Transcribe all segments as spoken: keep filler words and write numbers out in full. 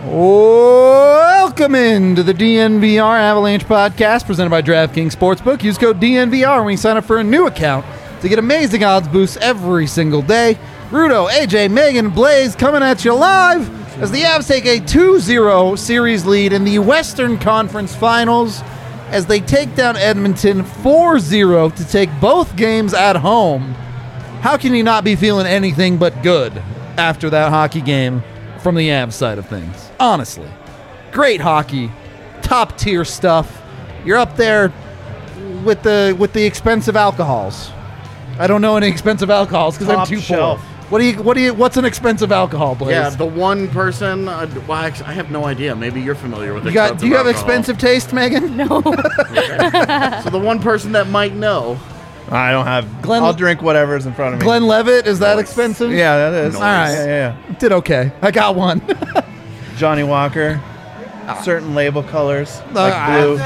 Welcome into the D N V R Avalanche podcast presented by DraftKings Sportsbook. Use code D N V R when you sign up for a new account to get amazing odds boosts every single day. Rudo, A J, Megan, Blaze coming at you live as the Avs take a two zero series lead in the Western Conference Finals as they take down Edmonton four zero to take both games at home. How can you not be feeling anything but good after that hockey game from the Avs side of things? Honestly. Great hockey. Top tier stuff. You're up there with the with the expensive alcohols. I don't know any expensive alcohols because I'm Top too shelf. poor. What do you what do you what's an expensive alcohol, Blaze? Yeah, the one person. Uh, well, actually, I have no idea. Maybe you're familiar with you it. got, do you have expensive taste, Megan? No. So the one person that might know. I don't have. Glenn- I'll drink whatever's in front of me. Glenn Levitt, is that expensive? Yeah, that is. All right. Yeah, yeah, yeah. Did okay. I got one. Johnny Walker. Certain label colors, Uh, like blue.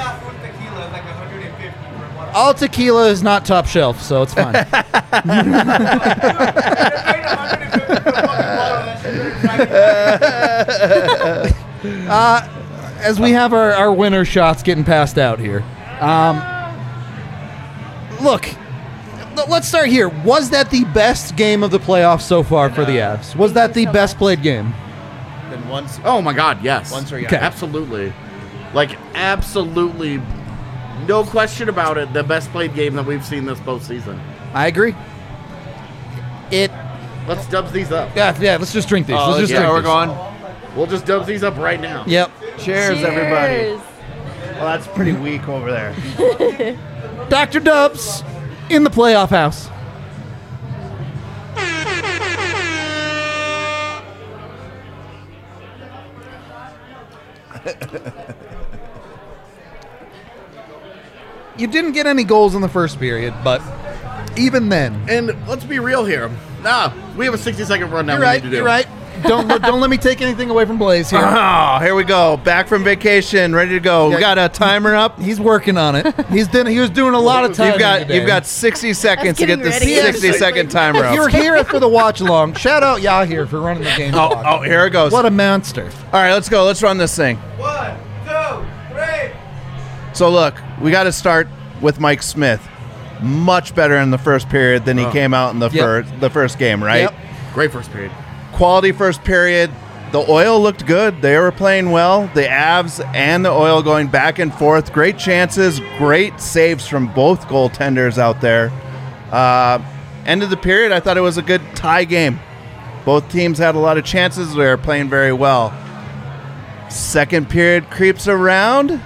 All tequila is not top shelf, so it's fine. uh, as we have our, our winner shots getting passed out here. Um, look, l- let's start here. Was that the best game of the playoffs so far for the Avs? Was that the best played game? Then once. Oh my God, yes. Once or Okay. Absolutely. Like absolutely, no question about it. The best played game that we've seen this postseason. I agree. It. Let's dubs these up. Yeah, yeah. Let's just drink these. Oh, let's just yeah, drink we're these. going. We'll just dubs these up right now. Yep. Cheers, everybody. Cheers. Well, that's pretty weak over there. Doctor Dubs in the playoff house. You didn't get any goals in the first period, but even then, And let's be real here. Nah, we have a sixty second rundown. you're we right. need to do. You're right. Don't let- don't let me take anything away from Blaze here. Oh, here we go. Back from vacation, ready to go. Yeah. We got a timer up. He's working on it. He's done. He was doing a lot of time. You've got you've got sixty seconds to get getting this ready. sixty second timer If you're up. here for the watch along, shout out Yahir for running the game. Oh, clock. oh, here it goes. What a monster! All right, let's go. Let's run this thing. One, two, three. So look, we got to start with Mike Smith. Much better in the first period than he Oh. came out in the Yep. first the first game, right? Yep. Great first period. Quality first period. The Oil looked good. They were playing well. The Avs and the Oil going back and forth. Great chances, great saves from both goaltenders out there. Uh, end of the period, I thought it was a good tie game. Both teams had a lot of chances. They were playing very well. Second period creeps around.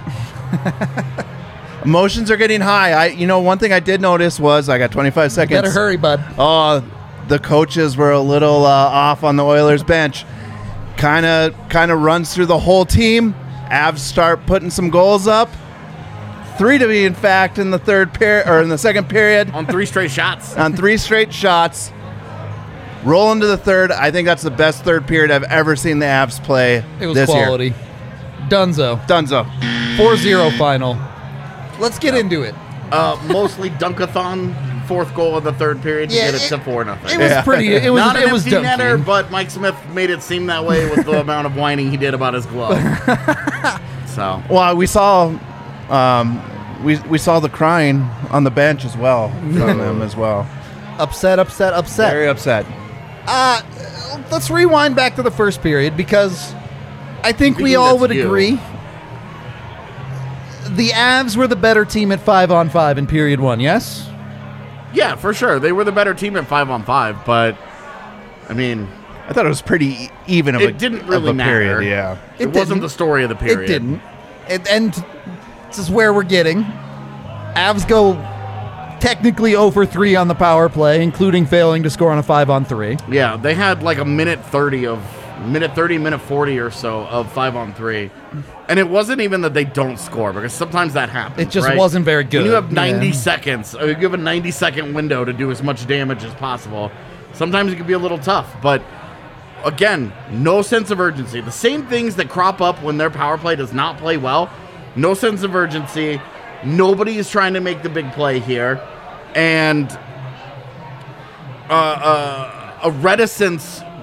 Emotions are getting high. I, you know, one thing I did notice was I got twenty-five seconds. Better hurry, bud. Oh, the coaches were a little uh, off on the Oilers bench. Kind of, kind of runs through the whole team. Avs start putting some goals up. Three to be, in fact, in the third period or in the second period On three straight shots. on three straight shots. Roll into the third. I think that's the best third period I've ever seen the Avs play It was this quality. Dunzo. year. Dunzo. four zero final. Let's get into it. Uh, mostly dunkathon. Fourth goal of the third period to Yeah, get it, it- to four nothing. It was Yeah. pretty. It was. Not it an was empty netter, dunking. but Mike Smith made it seem that way with the amount of whining he did about his glove. So Well, we saw, um, we we saw the crying on the bench as well from them as well. Upset, upset, upset. Very upset. Uh, let's rewind back to the first period because I think we Speaking all that's would you. agree the Avs were the better team at five on five in period one. Yes. yeah, for sure, they were the better team at five on five. But I mean, I thought it was pretty e- even of It a didn't of really a period. matter. Yeah. it, It wasn't didn't. the story of the period. It didn't. It, and this is where we're getting. Avs go technically zero for three on the power play, including failing to score on a five on three. Yeah, they had like a minute thirty of minute thirty, minute forty or so of five on three, and it wasn't even that they don't score because sometimes that happens. It just right? wasn't very good. When you have ninety Yeah. seconds, or you give a ninety second window to do as much damage as possible. Sometimes it can be a little tough, but again, no sense of urgency. The same things that crop up when their power play does not play well. No sense of urgency. Nobody is trying to make the big play here, and uh, uh, a reticence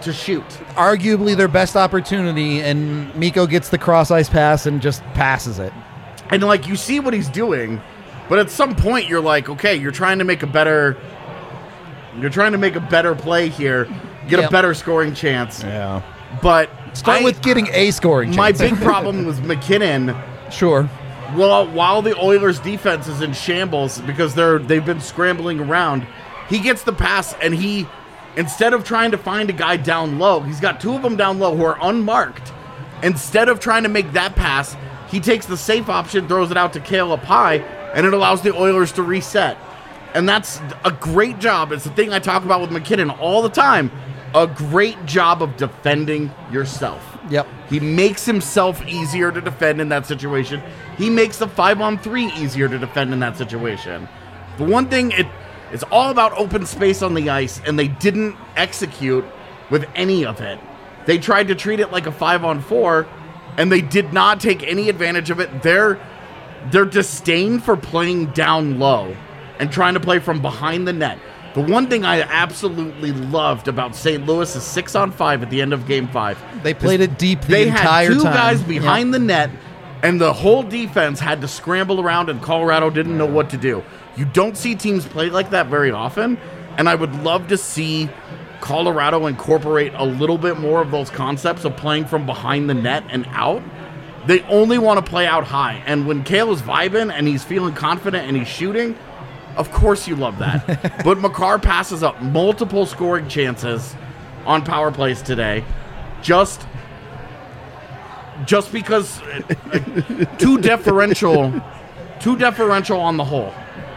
to shoot. Arguably their best opportunity, and Miko gets the cross ice pass and just passes it. And like you see what he's doing, but at some point you're like, okay, you're trying to make a better, you're trying to make a better play here, get Yep. a better scoring chance. Yeah. But Start I- with getting a scoring my chance. big problem was McKinnon. Sure. Well, while the Oilers' defense is in shambles because they're they've been scrambling around, he gets the pass and he, instead of trying to find a guy down low, he's got two of them down low who are unmarked. Instead of trying to make that pass, he takes the safe option, throws it out to Cale up high, and it allows the Oilers to reset. And that's a great job. It's the thing I talk about with McKinnon all the time. A great job of defending yourself. Yep. He makes himself easier to defend in that situation. He makes the five-on-three easier to defend in that situation. The one thing, it it's all about open space on the ice, and they didn't execute with any of it. They tried to treat it like a five-on-four, and they did not take any advantage of it. Their, their disdain for playing down low and trying to play from behind the net. The one thing I absolutely loved about Saint Louis is six on five at the end of game five. They played it deep the They entire had two time. guys behind the net, and the whole defense had to scramble around, and Colorado didn't know what to do. You don't see teams play like that very often, and I would love to see Colorado incorporate a little bit more of those concepts of playing from behind the net and out. They only want to play out high, and when Cale is vibing and he's feeling confident and he's shooting, of course you love that. But Makar passes up multiple scoring chances on power plays today. Just just because uh, too deferential too deferential on the whole.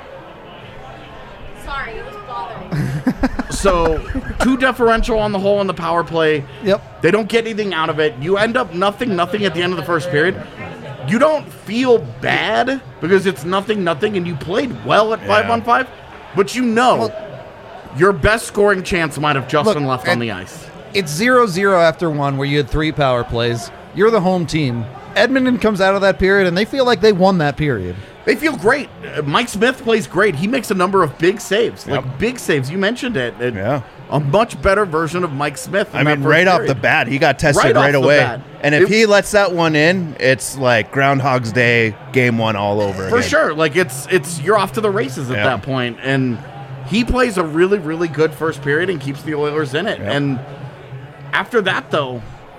Sorry, it was bothering. So too deferential on the whole on the power play. Yep. They don't get anything out of it. You end up nothing nothing at the end of the first period. You don't feel bad because it's nothing, nothing, and you played well at five Yeah. on five, but you know your best scoring chance might have just Look, been left on and- the ice. It's zero zero after one where you had three power plays. You're the home team. Edmonton comes out of that period, and they feel like they won that period. They feel great. Uh, Mike Smith plays great. He makes a number of big saves, like Yep. big saves. You mentioned it. It- Yeah. A much better version of Mike Smith. in I that mean, first right off period. the bat, he got tested Right right, off the away. bat. And if It- he lets that one in, it's like Groundhog's Day, game one all over For again. sure. Like it's it's you're off to the races at Yeah. that point. And he plays a really, really good first period and keeps the Oilers in it. Yep. And after that though,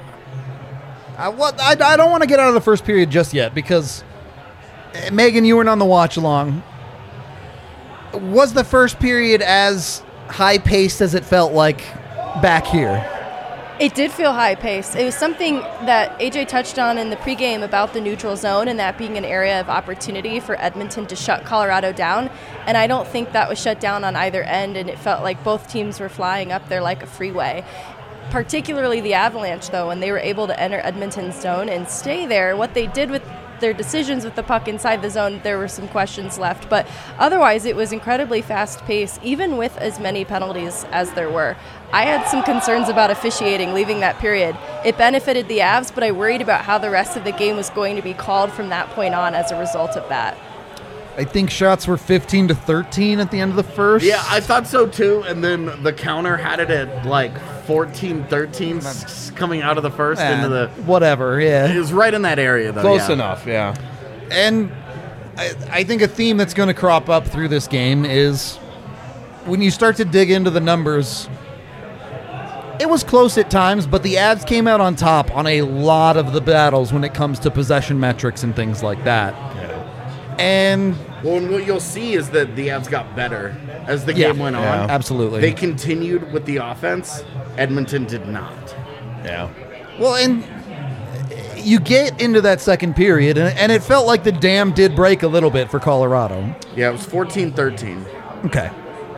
I, what, I, I don't want to get out of the first period just yet because, eh, Megan, you weren't on the watch along. Was the first period as high-paced as it felt like back here? It did feel high paced. It was something that A J touched on in the pregame about the neutral zone and that being an area of opportunity for Edmonton to shut Colorado down. And I don't think that was shut down on either end, and it felt like both teams were flying up there like a freeway. Particularly the Avalanche, though, when they were able to enter Edmonton's zone and stay there. What they did with their decisions with the puck inside the zone, there were some questions left. But otherwise, it was incredibly fast-paced, even with as many penalties as there were. I had some concerns about officiating leaving that period. It benefited the Avs, but I worried about how the rest of the game was going to be called from that point on as a result of that. I think shots were fifteen to thirteen at the end of the first. yeah, I thought so too. And then the counter had it at like fourteen thirteen s- coming out of the first Eh, into the. whatever, yeah. It was right in that area though. Close yeah. enough, yeah. And I, I think a theme that's going to crop up through this game is when you start to dig into the numbers, it was close at times, but the Avs came out on top on a lot of the battles when it comes to possession metrics and things like that. And Well, and what you'll see is that the Avs got better as the yeah, game went on. Yeah. absolutely. They continued with the offense. Edmonton did not. Yeah. Well, and you get into that second period, and, and it felt like the dam did break a little bit for Colorado. Yeah, it was fourteen thirteen. Okay.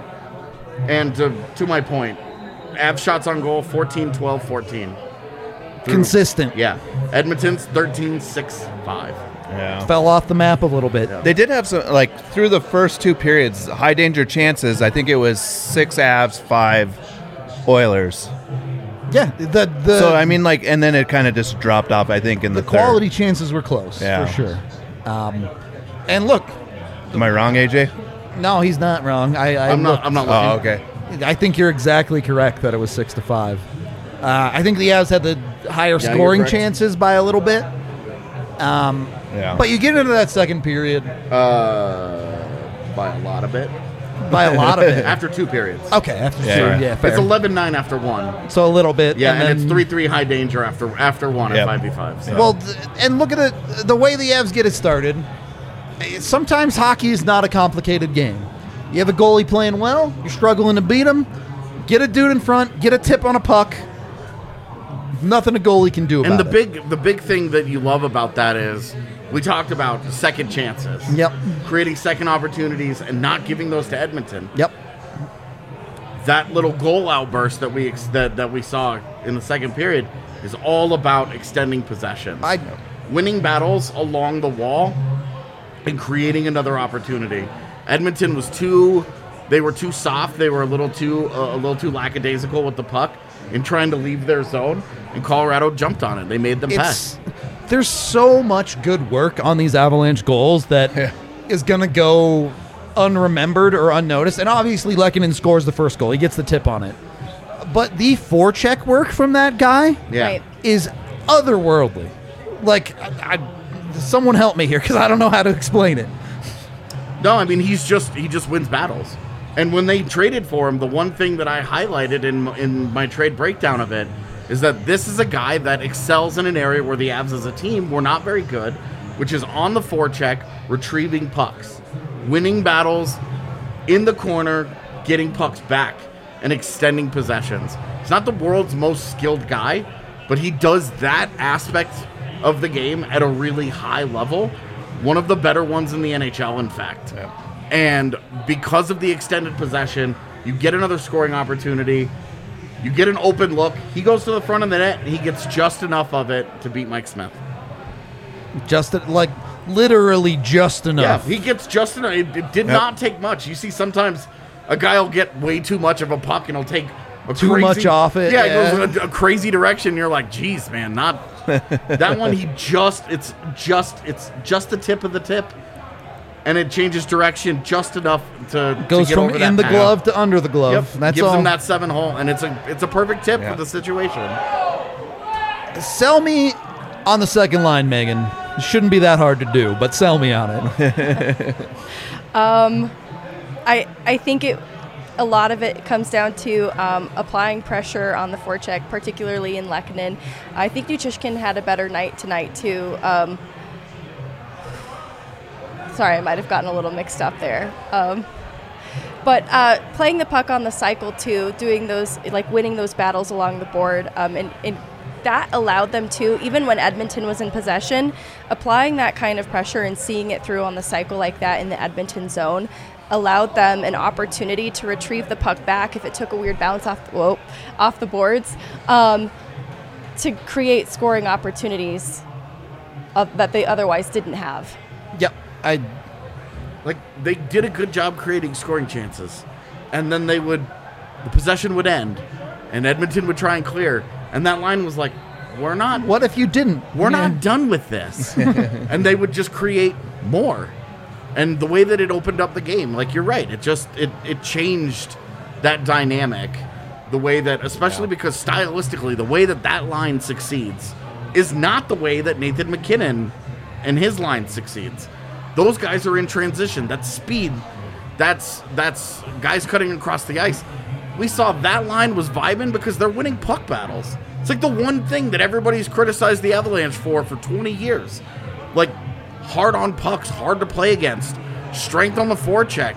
And to, to my point, Avs shots on goal, fourteen twelve fourteen. Consistent. Yeah. Edmonton's thirteen six five. Yeah. Fell off the map a little bit. They did have some, like, through the first two periods, high danger chances. I think it was six Avs, five Oilers. Yeah. The, the, so, I mean, like, and then it kind of just dropped off, I think, in the, the quality chances were close, Yeah. for sure. Um, and look, third. Am I wrong, A J? no, he's not wrong. I, I I'm not looked- I'm not Oh, looking. okay. I think you're exactly correct that it was six to five. Uh, I think the Avs had the higher Yeah, scoring you're correct. chances by a little bit. Um, Yeah. But you get into that second period Uh, by a lot of it. by a lot of it. After two periods. Okay, after Yeah, two, right. yeah, fair. It's eleven nine after one. So a little bit. Yeah, and, then, it's three three high danger after after one Yep. at five v five. So. Well, th- and look at it, the way the Avs get it started. eh, Sometimes hockey is not a complicated game. You have a goalie playing well, you're struggling to beat him, get a dude in front, get a tip on a puck. Nothing a goalie can do about and the it. big the big thing that you love about that is we talked about second chances. Yep. Creating second opportunities and not giving those to Edmonton. Yep. That little goal outburst that we ex- that, that we saw in the second period is all about extending possessions. I Winning battles along the wall and creating another opportunity. Edmonton was too they were too soft, they were a little too uh, a little too lackadaisical with the puck in trying to leave their zone, and Colorado jumped on it. They made them pass. it's there's so much good work on these Avalanche goals that is going to go unremembered or unnoticed. And obviously Lehkonen scores the first goal. He gets the tip on it. But the forecheck work from that guy Yeah. Right. is otherworldly. Like, I, I, someone help me here because I don't know how to explain it. No, I mean he's just he just wins battles. And when they traded for him, the one thing that I highlighted in in my trade breakdown of it is that this is a guy that excels in an area where the Avs as a team were not very good, which is on the forecheck, retrieving pucks, winning battles in the corner, getting pucks back, and extending possessions. He's not the world's most skilled guy, but he does that aspect of the game at a really high level. One of the better ones in the N H L, in fact. And because of the extended possession, you get another scoring opportunity. You get an open look. He goes to the front of the net, and he gets just enough of it to beat Mike Smith. Just like literally just enough. Yeah, he gets just enough. It, it did Yep. not take much. You see, sometimes a guy will get way too much of a puck, and he'll take a Too crazy, much off it, Yeah, yeah. it goes a, a crazy direction. You're like, geez, man, not that one. He just it's just it's just the tip of the tip, and it changes direction just enough to Goes to get from over in that the path. glove to under the glove. Yep, That's gives all. him that seven hole, and it's a it's a perfect tip Yeah. for the situation. Sell me on the second line, Megan. It shouldn't be that hard to do, but sell me on it. I I think it a lot of it comes down to um, applying pressure on the forecheck, particularly in Lehkonen. I think Nutrishkin had a better night tonight too. Um, sorry, I might have gotten a little mixed up there. Um, but uh, playing the puck on the cycle too, doing those like winning those battles along the board, um, and, and that allowed them to, even when Edmonton was in possession, applying that kind of pressure and seeing it through on the cycle like that in the Edmonton zone allowed them an opportunity to retrieve the puck back if it took a weird bounce off the, whoa, off the boards, um, to create scoring opportunities of, that they otherwise didn't have. Yep. I Like they did a good job creating scoring chances, and then they would the possession would end, and Edmonton would try and clear, and that line was like, we're not what if you didn't? we're Yeah. not done with this. And they would just create more. And the way that it opened up the game, like you're right, it just it it changed that dynamic. The way that, especially because stylistically, the way that that line succeeds is not the way that Nathan McKinnon and his line succeeds. Those guys are in transition. That's speed. That's that's guys cutting across the ice. We saw that line was vibing because they're winning puck battles. It's like the one thing that everybody's criticized the Avalanche for for twenty years. Like, hard on pucks, hard to play against, strength on the forecheck.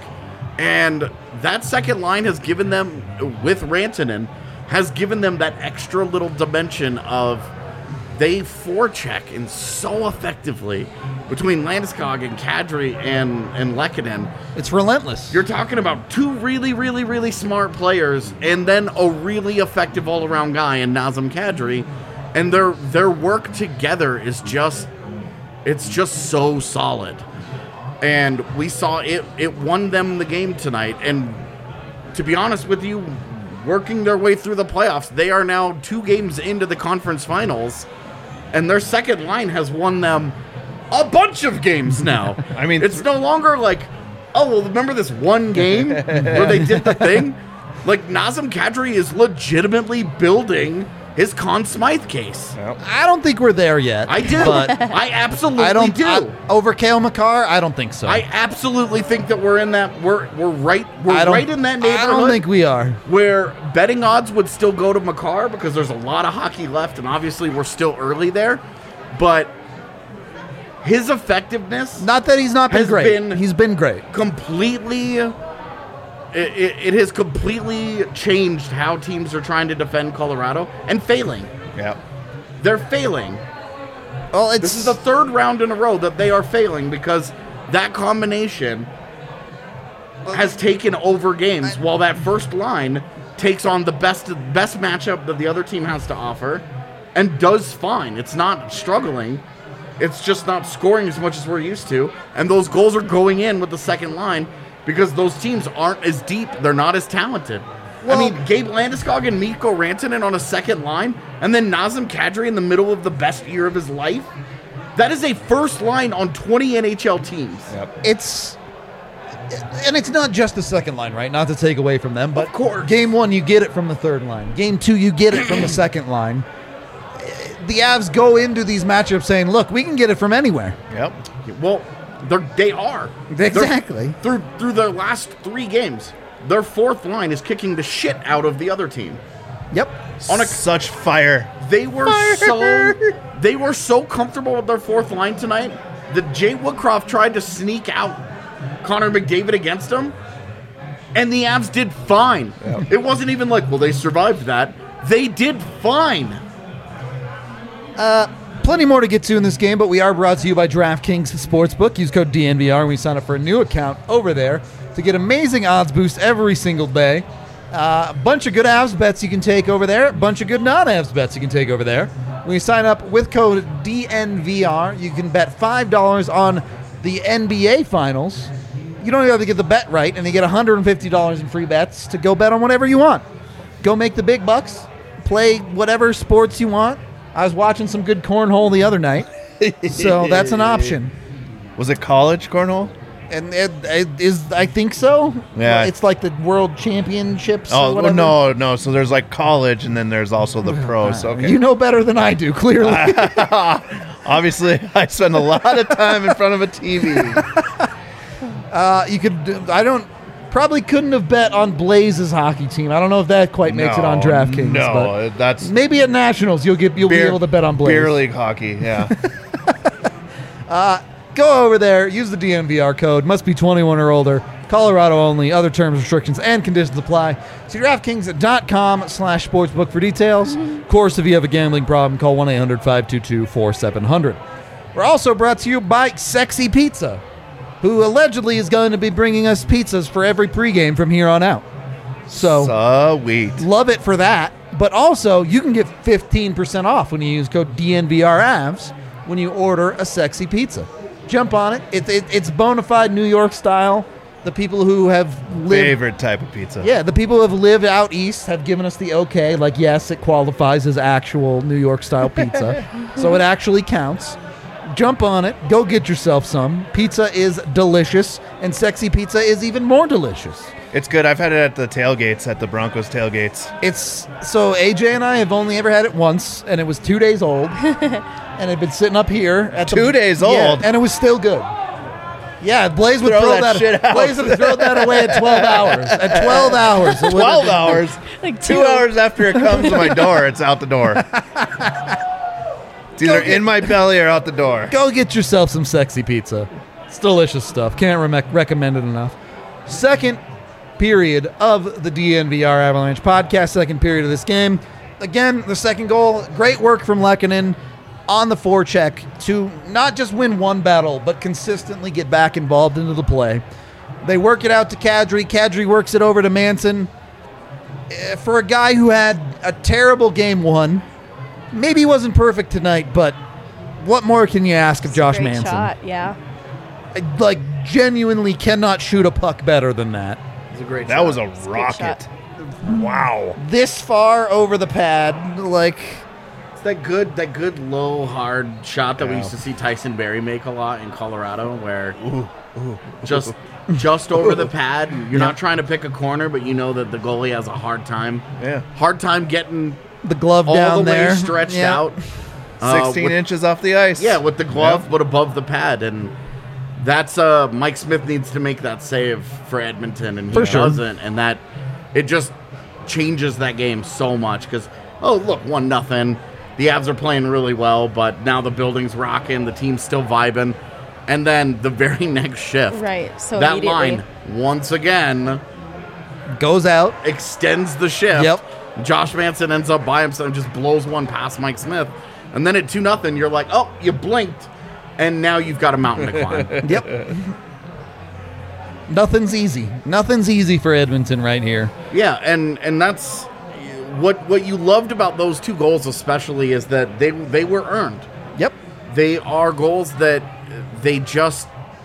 And that second line has given them, with Rantanen, has given them that extra little dimension of they forecheck in so effectively between Landeskog and Kadri and, and Lehkonen. It's relentless. You're talking about two really, really, really smart players and then a really effective all-around guy in Nazem Kadri. And their their work together is just, it's just so solid. And we saw it, it won them the game tonight. And to be honest with you, working their way through the playoffs, they are now two games into the conference finals. And their second line has won them a bunch of games now. I mean, it's no longer like, oh, well, remember this one game where they did the thing? Like, Nazem Kadri is legitimately building his Conn Smythe case. I don't think we're there yet. I do. But I absolutely I don't do. I, over Cale Makar, I don't think so. I absolutely think that we're in that we're we're right we're I don't- right in that neighborhood. I don't think we are. Where betting odds would still go to Makar because there's a lot of hockey left, and obviously we're still early there. But his effectiveness Not that he's not been Has great. been- he's been great. completely it, it, it has completely changed how teams are trying to defend Colorado and failing. Yeah. They're failing. Well, it's This is the third round in a row that they are failing because that combination has taken over games while that first line takes on the best best matchup that the other team has to offer and does fine. It's not struggling. It's just not scoring as much as we're used to. And those goals are going in with the second line because those teams aren't as deep. They're not as talented. Well- I mean, Gabe Landeskog and Mikko Rantanen on a second line, and then Nazem Kadri in the middle of the best year of his life. That is a first line on twenty N H L teams. Yep. it's and it's not just the second line, right? Not to take away from them, but Of course. game one you get it from the third line. Game two you get it from the second line. The Avs go into these matchups saying, "Look, we can get it from anywhere." Yep. Well, they're, they are. They're- Exactly. through through their last three games, their fourth line is kicking the shit out of the other team. Yep. On a- Such fire. They were so they were so comfortable with their fourth line tonight that Jay Woodcroft tried to sneak out Connor McDavid against him, and the Avs did fine. It wasn't even like, well, they survived that. They did fine. Plenty more to get to in this game, but we are brought to you by DraftKings Sportsbook. Use code D N V R when we sign up for a new account over there to get amazing odds boosts every single day. Uh, a bunch of good Avs bets you can take over there. A bunch of good non-Avs bets you can take over there. When you sign up with code D N V R, you can bet five dollars on the N B A Finals. You don't even have to get the bet right, and you get one hundred fifty dollars in free bets to go bet on whatever you want. Go make the big bucks. Play whatever sports you want. I was watching some good cornhole the other night, so that's an option. Was it college cornhole? And it, it is, I think so. Yeah. It's like the World Championships. or Oh, whatever. no, no. So there's like college and then there's also the pros. Okay. You know better than I do, clearly. Obviously, I spend a lot of time in front of a T V. Uh, you could. I don't. Probably couldn't have bet on Blaze's hockey team. I don't know if that quite makes it on No, DraftKings. No, but that's maybe at Nationals you'll get you'll beer, be able to bet on Blaze. beer league hockey. Yeah. Go over there, use the D N V R code. Must be twenty-one or older. Colorado only. Other terms, restrictions, and conditions apply. See DraftKings.com slash sportsbook for details. Of course, if you have a gambling problem, call one eight hundred five two two four seven zero zero. We're also brought to you by Sexy Pizza, who allegedly is going to be bringing us pizzas for every pregame from here on out. So Sweet. love it for that. But also, you can get fifteen percent off when you use code D N V R A V S when you order a Sexy Pizza. Jump on it. It, it. It's bona fide New York style. The people who have lived... Favorite type of pizza. Yeah, the people who have lived out east have given us the okay. Like, yes, it qualifies as actual New York style pizza. So it actually counts. Jump on it. Go get yourself some. Pizza is delicious, and Sexy Pizza is even more delicious. It's good. I've had it at the tailgates, at the Broncos tailgates. It's so A J and I have only ever had it once, and it was two days old, and it had been sitting up here at the, Two days Yeah, old? and it was still good. Yeah, Blaze would Throw throw, that that, shit out. Blaze would throw that away at twelve hours. At twelve hours, it would have Twelve been- hours. Like Two two. hours after it comes to my door, it's out the door. It's either Go get- in my belly or out the door. Go get yourself some Sexy Pizza. It's delicious stuff. Can't re- recommend it enough. Second period of the D N V R Avalanche podcast. Second period of this game. Again, the second goal. Great work from Lehkonen on the forecheck to not just win one battle, but consistently get back involved into the play. They work it out to Kadri. Kadri works it over to Manson. Eh, For a guy who had a terrible game one, maybe he wasn't perfect tonight, but what more can you ask of Josh Great Manson? shot, yeah. I, like, genuinely cannot shoot a puck better than that. It's a great That shot. was a a great rocket. Wow. This far over the pad, like, It's that good, that good low hard shot that we Yeah. used to see Tyson Berry make a lot in Colorado, where just just over the pad. You're not trying to pick a corner, but you know that the goalie has a hard time, Yeah. hard time getting The glove all down the there. way stretched Yeah. out. uh, sixteen with- inches off the ice. Yeah, with the glove, Yep. but above the pad, and that's uh, Mike Smith needs to make that save for Edmonton, and he For sure. doesn't, and that it just changes that game so much. Because oh look, one nothing, the Avs are playing really well, but now the building's rocking, the team's still vibing, and then the very next shift, Right, so that immediately. line once again Goes out. extends the shift. Yep. Josh Manson ends up by himself and just blows one past Mike Smith. And then at two nothing, you're like, oh, you blinked, and now you've got a mountain to climb. Yep. Nothing's easy. Nothing's easy for Edmonton right here. Yeah, and and that's what what you loved about those two goals especially is that they they were earned. Yep. They are goals that they just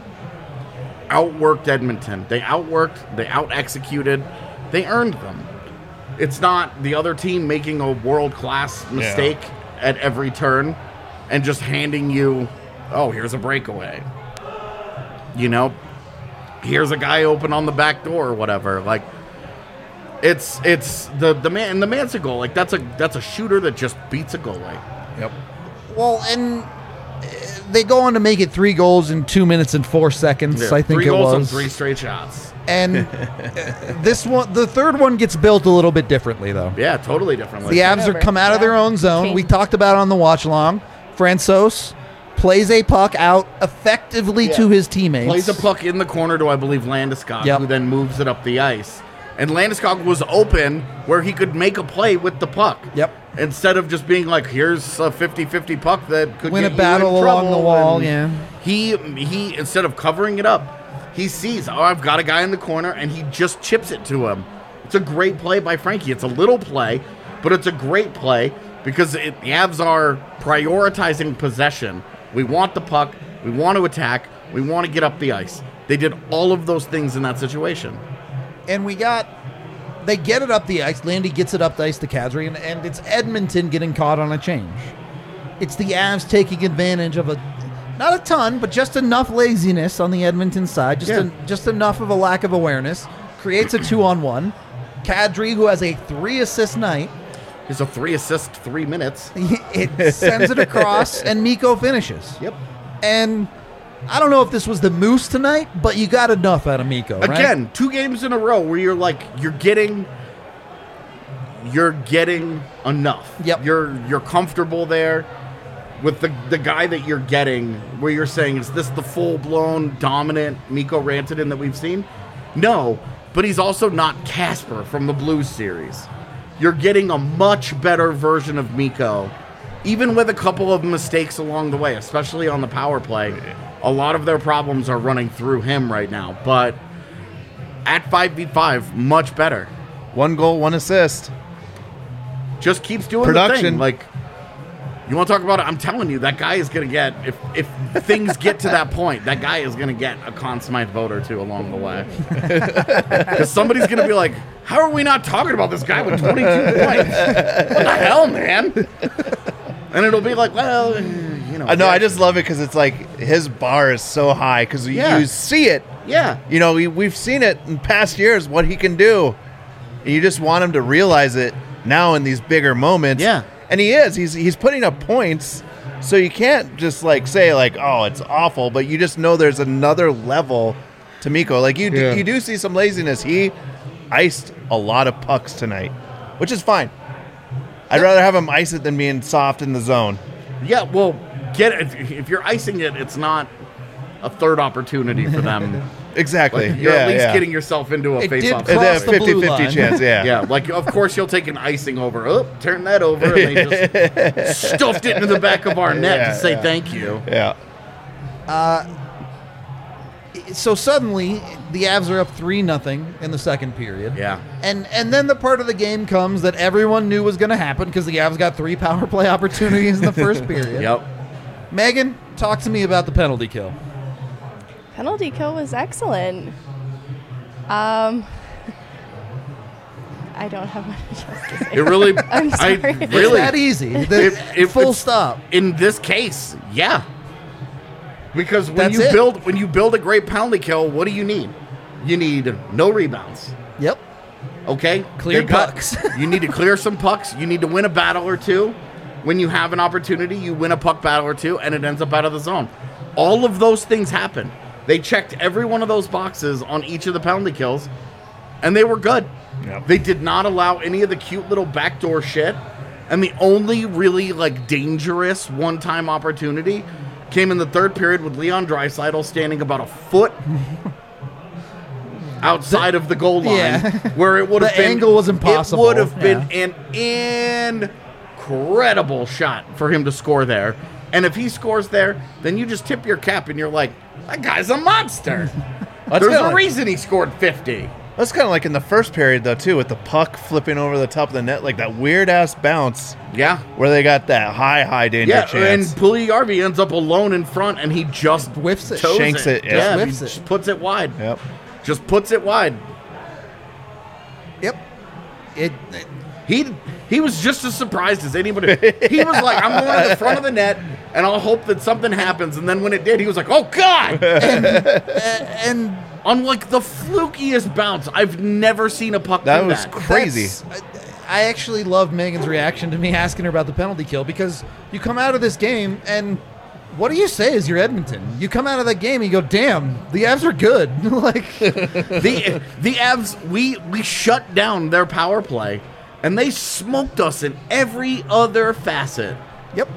outworked Edmonton. They outworked, they out-executed, they earned them. It's not the other team making a world-class mistake at every turn and just handing you, oh, here's a breakaway. You know, here's a guy open on the back door or whatever. Like, it's it's the the man and the Manson goal. Like that's a that's a shooter that just beats a goalie. Yep. Well, and uh, they go on to make it three goals in two minutes and four seconds. Yeah, I think three it goals was. and three straight shots. And uh, this one, the third one, gets built a little bit differently, though. Yeah, totally differently. The Avs are Whatever. come out of Yeah. their own zone. We Change. talked about it on the watch along. Francois plays a puck out effectively to his teammates. Plays a puck in the corner to, I believe, Landeskog, Yep. who then moves it up the ice. And Landeskog was open where he could make a play with the puck. Yep. Instead of just being like, here's a fifty-fifty puck that could Win get a battle you in along trouble. the wall, And yeah. He, he instead of covering it up, he sees, oh, I've got a guy in the corner, and he just chips it to him. It's a great play by Frankie. It's a little play, but it's a great play because it, the Avs are prioritizing possession. We want the puck. We want to attack. We want to get up the ice. They did all of those things in that situation. And we got, they get it up the ice. Landy gets it up the ice to Kadri, and, and it's Edmonton getting caught on a change. It's the Avs taking advantage of a, not a ton, but just enough laziness on the Edmonton side, just Yeah. en- just enough of a lack of awareness. Creates a two-on-one. Kadri, who has a three-assist night, He's a three assist, three minutes. it sends it across, and Mikko finishes. Yep. And I don't know if this was the Moose tonight, but you got enough out of Mikko, right? Again, two games in a row where you're like, you're getting, you're getting enough. Yep. You're you're comfortable there with the the guy that you're getting. Where you're saying, is this the full blown dominant Mikko Rantanen that we've seen? No, but he's also not Casper from the Blues series. You're getting a much better version of Mikko, even with a couple of mistakes along the way, especially on the power play. A lot of their problems are running through him right now, but at five v five, much better. One goal, one assist. Just keeps doing the Production. thing. Like, you want to talk about it? I'm telling you, that guy is going to get, if if things get to that point, that guy is going to get a Conn Smythe vote or two along the way. Because somebody's going to be like, how are we not talking about this guy with twenty-two points? What the hell, man? And it'll be like, well, eh, you know. I know. I just love it because it's like his bar is so high because Yeah. you see it. Yeah. You know, we, we've seen it in past years what he can do, and you just want him to realize it now in these bigger moments. Yeah. And he is. He's he's putting up points, so you can't just like say like, oh, it's awful, but you just know there's another level to Mikko. Like you, Yeah. do, you do see some laziness. He iced a lot of pucks tonight, which is fine. I'd rather have him ice it than being soft in the zone. Yeah, well, get it. If you're icing it, it's not a third opportunity for them. Exactly. Like, you're yeah, at least yeah. getting yourself into a It did face-off. cross It's a the blue fifty-fifty line. chance, yeah. Yeah, like of course you'll take an icing over. Oh, turn that over, and they just stuffed it into the back of our net Yeah, to say yeah. thank you. Yeah. So suddenly, the Avs are up three nothing in the second period. Yeah. And and then the part of the game comes that everyone knew was going to happen because the Avs got three power play opportunities in the first period. Yep. Megan, talk to me about the penalty kill. Penalty kill was excellent. Um, I don't have much else to say. It really, I'm I sorry. It's really, that easy. The- It- it- full it's- stop. in this case, yeah. Because when That's you it. build when you build a great penalty kill, what do you need? You need no rebounds. Yep. Okay? Clear They got- pucks. You need to clear some pucks. You need to win a battle or two. When you have an opportunity, you win a puck battle or two, and it ends up out of the zone. All of those things happen. They checked every one of those boxes on each of the penalty kills, and they were good. Yep. They did not allow any of the cute little backdoor shit. And the only really like dangerous one-time opportunity came in the third period with Leon Draisaitl standing about a foot outside of the goal line, Yeah. where it would have The been angle was impossible. It would have been Yeah. an incredible shot for him to score there. And if he scores there, then you just tip your cap and you're like, that guy's a monster. That's There's kinda a like- reason he scored fifty. That's kind of like in the first period, though, too, with the puck flipping over the top of the net, like that weird-ass bounce Yeah. where they got that high, high danger Yeah, chance. and Puljujärvi ends up alone in front, and he just Whiffs it. toes Shanks it, yeah. Yeah, Just he whiffs it. just puts it wide. Yep. Just puts it wide. Yep. It, it He he was just as surprised as anybody. He was like, I'm going to the front of the net, and I'll hope that something happens. And then when it did, he was like, oh, God! and On like the flukiest bounce. I've never seen a puck That do was that. crazy. that's- I actually love Megan's reaction to me asking her about the penalty kill, because you come out of this game and what do you say as your Edmonton? You come out of that game and you go, damn, the Avs are good. Like the the Avs, we we shut down their power play, and they smoked us in every other facet. Yep.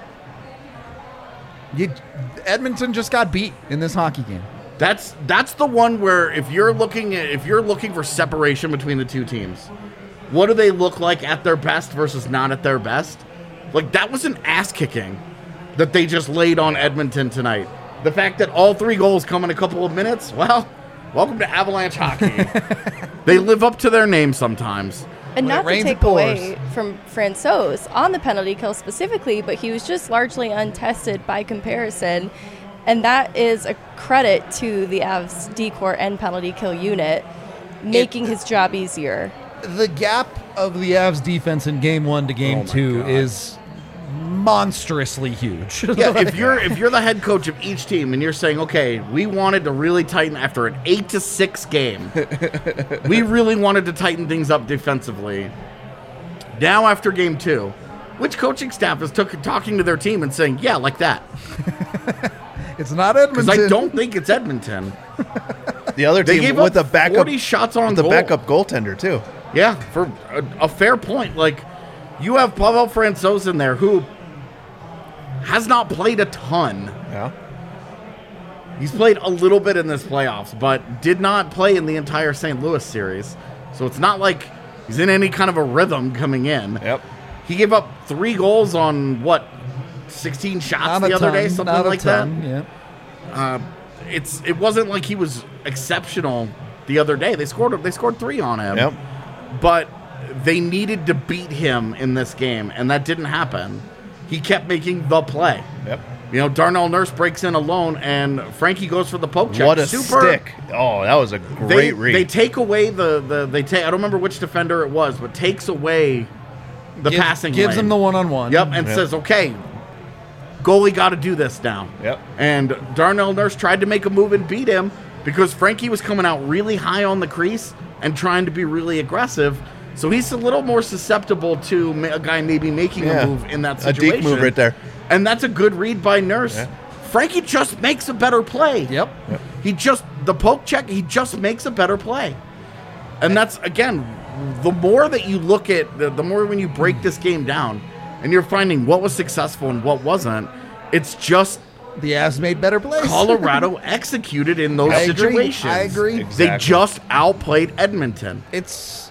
You, Edmonton just got beat in this hockey game. That's that's the one where if you're looking at, if you're looking for separation between the two teams, what do they look like at their best versus not at their best? Like that was an ass kicking that they just laid on Edmonton tonight. The fact that all three goals come in a couple of minutes, well, welcome to Avalanche hockey. They live up to their name sometimes. And When it not to rains, it take pours. away from Francouz on the penalty kill specifically, but he was just largely untested by comparison. And that is a credit to the Avs D-Corps and penalty kill unit, making his job easier. The gap of the Avs defense in game one to game Oh my two God. is monstrously huge. Yeah, if you're if you're the head coach of each team and you're saying, okay, we wanted to really tighten after an eight to six game, we really wanted to tighten things up defensively. Now after game two, which coaching staff is took, talking to their team and saying, yeah, like that? It's not Because Edmonton. I don't think it's Edmonton. The other They team gave with up the backup, forty shots on with the goal. backup goaltender too. Yeah, for a, a fair point. Like, you have Pavel Francouz in there who has not played a ton. Yeah. He's played a little bit in this playoffs, but did not play in the entire Saint Louis series. So it's not like he's in any kind of a rhythm coming in. Yep. He gave up three goals on, what, sixteen shots Not the a other ton, day? Something not a like ton, that. Yeah. Uh, it's It wasn't like he was exceptional the other day. They scored, they scored three on him. Yep. But they needed to beat him in this game, and that didn't happen. He kept making the play. Yep. You know, Darnell Nurse breaks in alone, and Frankie goes for the poke check. What a Super. stick! Oh, that was a great They, read. they take away the, the they take I don't remember which defender it was, but takes away the Gives- passing gives lane. him the one-on-one. Yep, and Yep. says, okay, goalie got to do this now. Yep. And Darnell Nurse tried to make a move and beat him because Frankie was coming out really high on the crease and trying to be really aggressive. So he's a little more susceptible to ma- a guy maybe making Yeah. a move in that A situation. deke move right there. And that's a good read by Nurse. Yeah. Frankie just makes a better play. Yep. He just, the poke check, he just makes a better play. And that's, again, the more that you look at, the, the more when you break this game down and you're finding what was successful and what wasn't, it's just The Avs made better plays. Colorado executed in those I agree. situations. I agree. They Exactly. just outplayed Edmonton. It's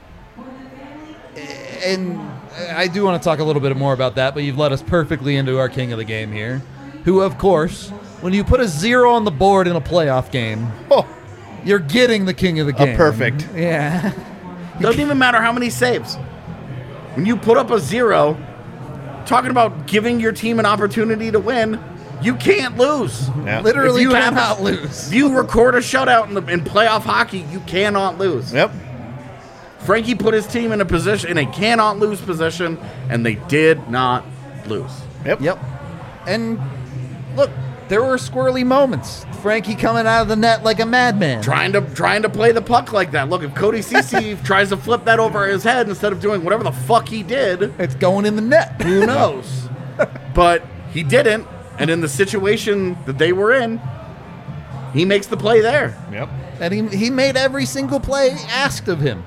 and I do want to talk a little bit more about that, but you've led us perfectly into our king of the game here, who, of course, when you put a zero on the board in a playoff game, Oh, you're getting the king of the game. perfect. Yeah. Doesn't even matter how many saves. When you put up a zero, talking about giving your team an opportunity to win, you can't lose. yeah. Literally If you have- cannot lose. If you record a shutout in, the, in playoff hockey, you cannot lose. Yep. Frankie put his team in a position, in a cannot lose position, and they did not lose. Yep. Yep. And look, There were squirrely moments. Frankie coming out of the net like a madman. Trying to trying to play the puck like that. Look, if Cody Ceci tries to flip that over his head instead of doing whatever the fuck he did, It's going in the net. who knows? But he didn't, and in the situation that they were in, he makes the play there. Yep. And he, he made every single play asked of him.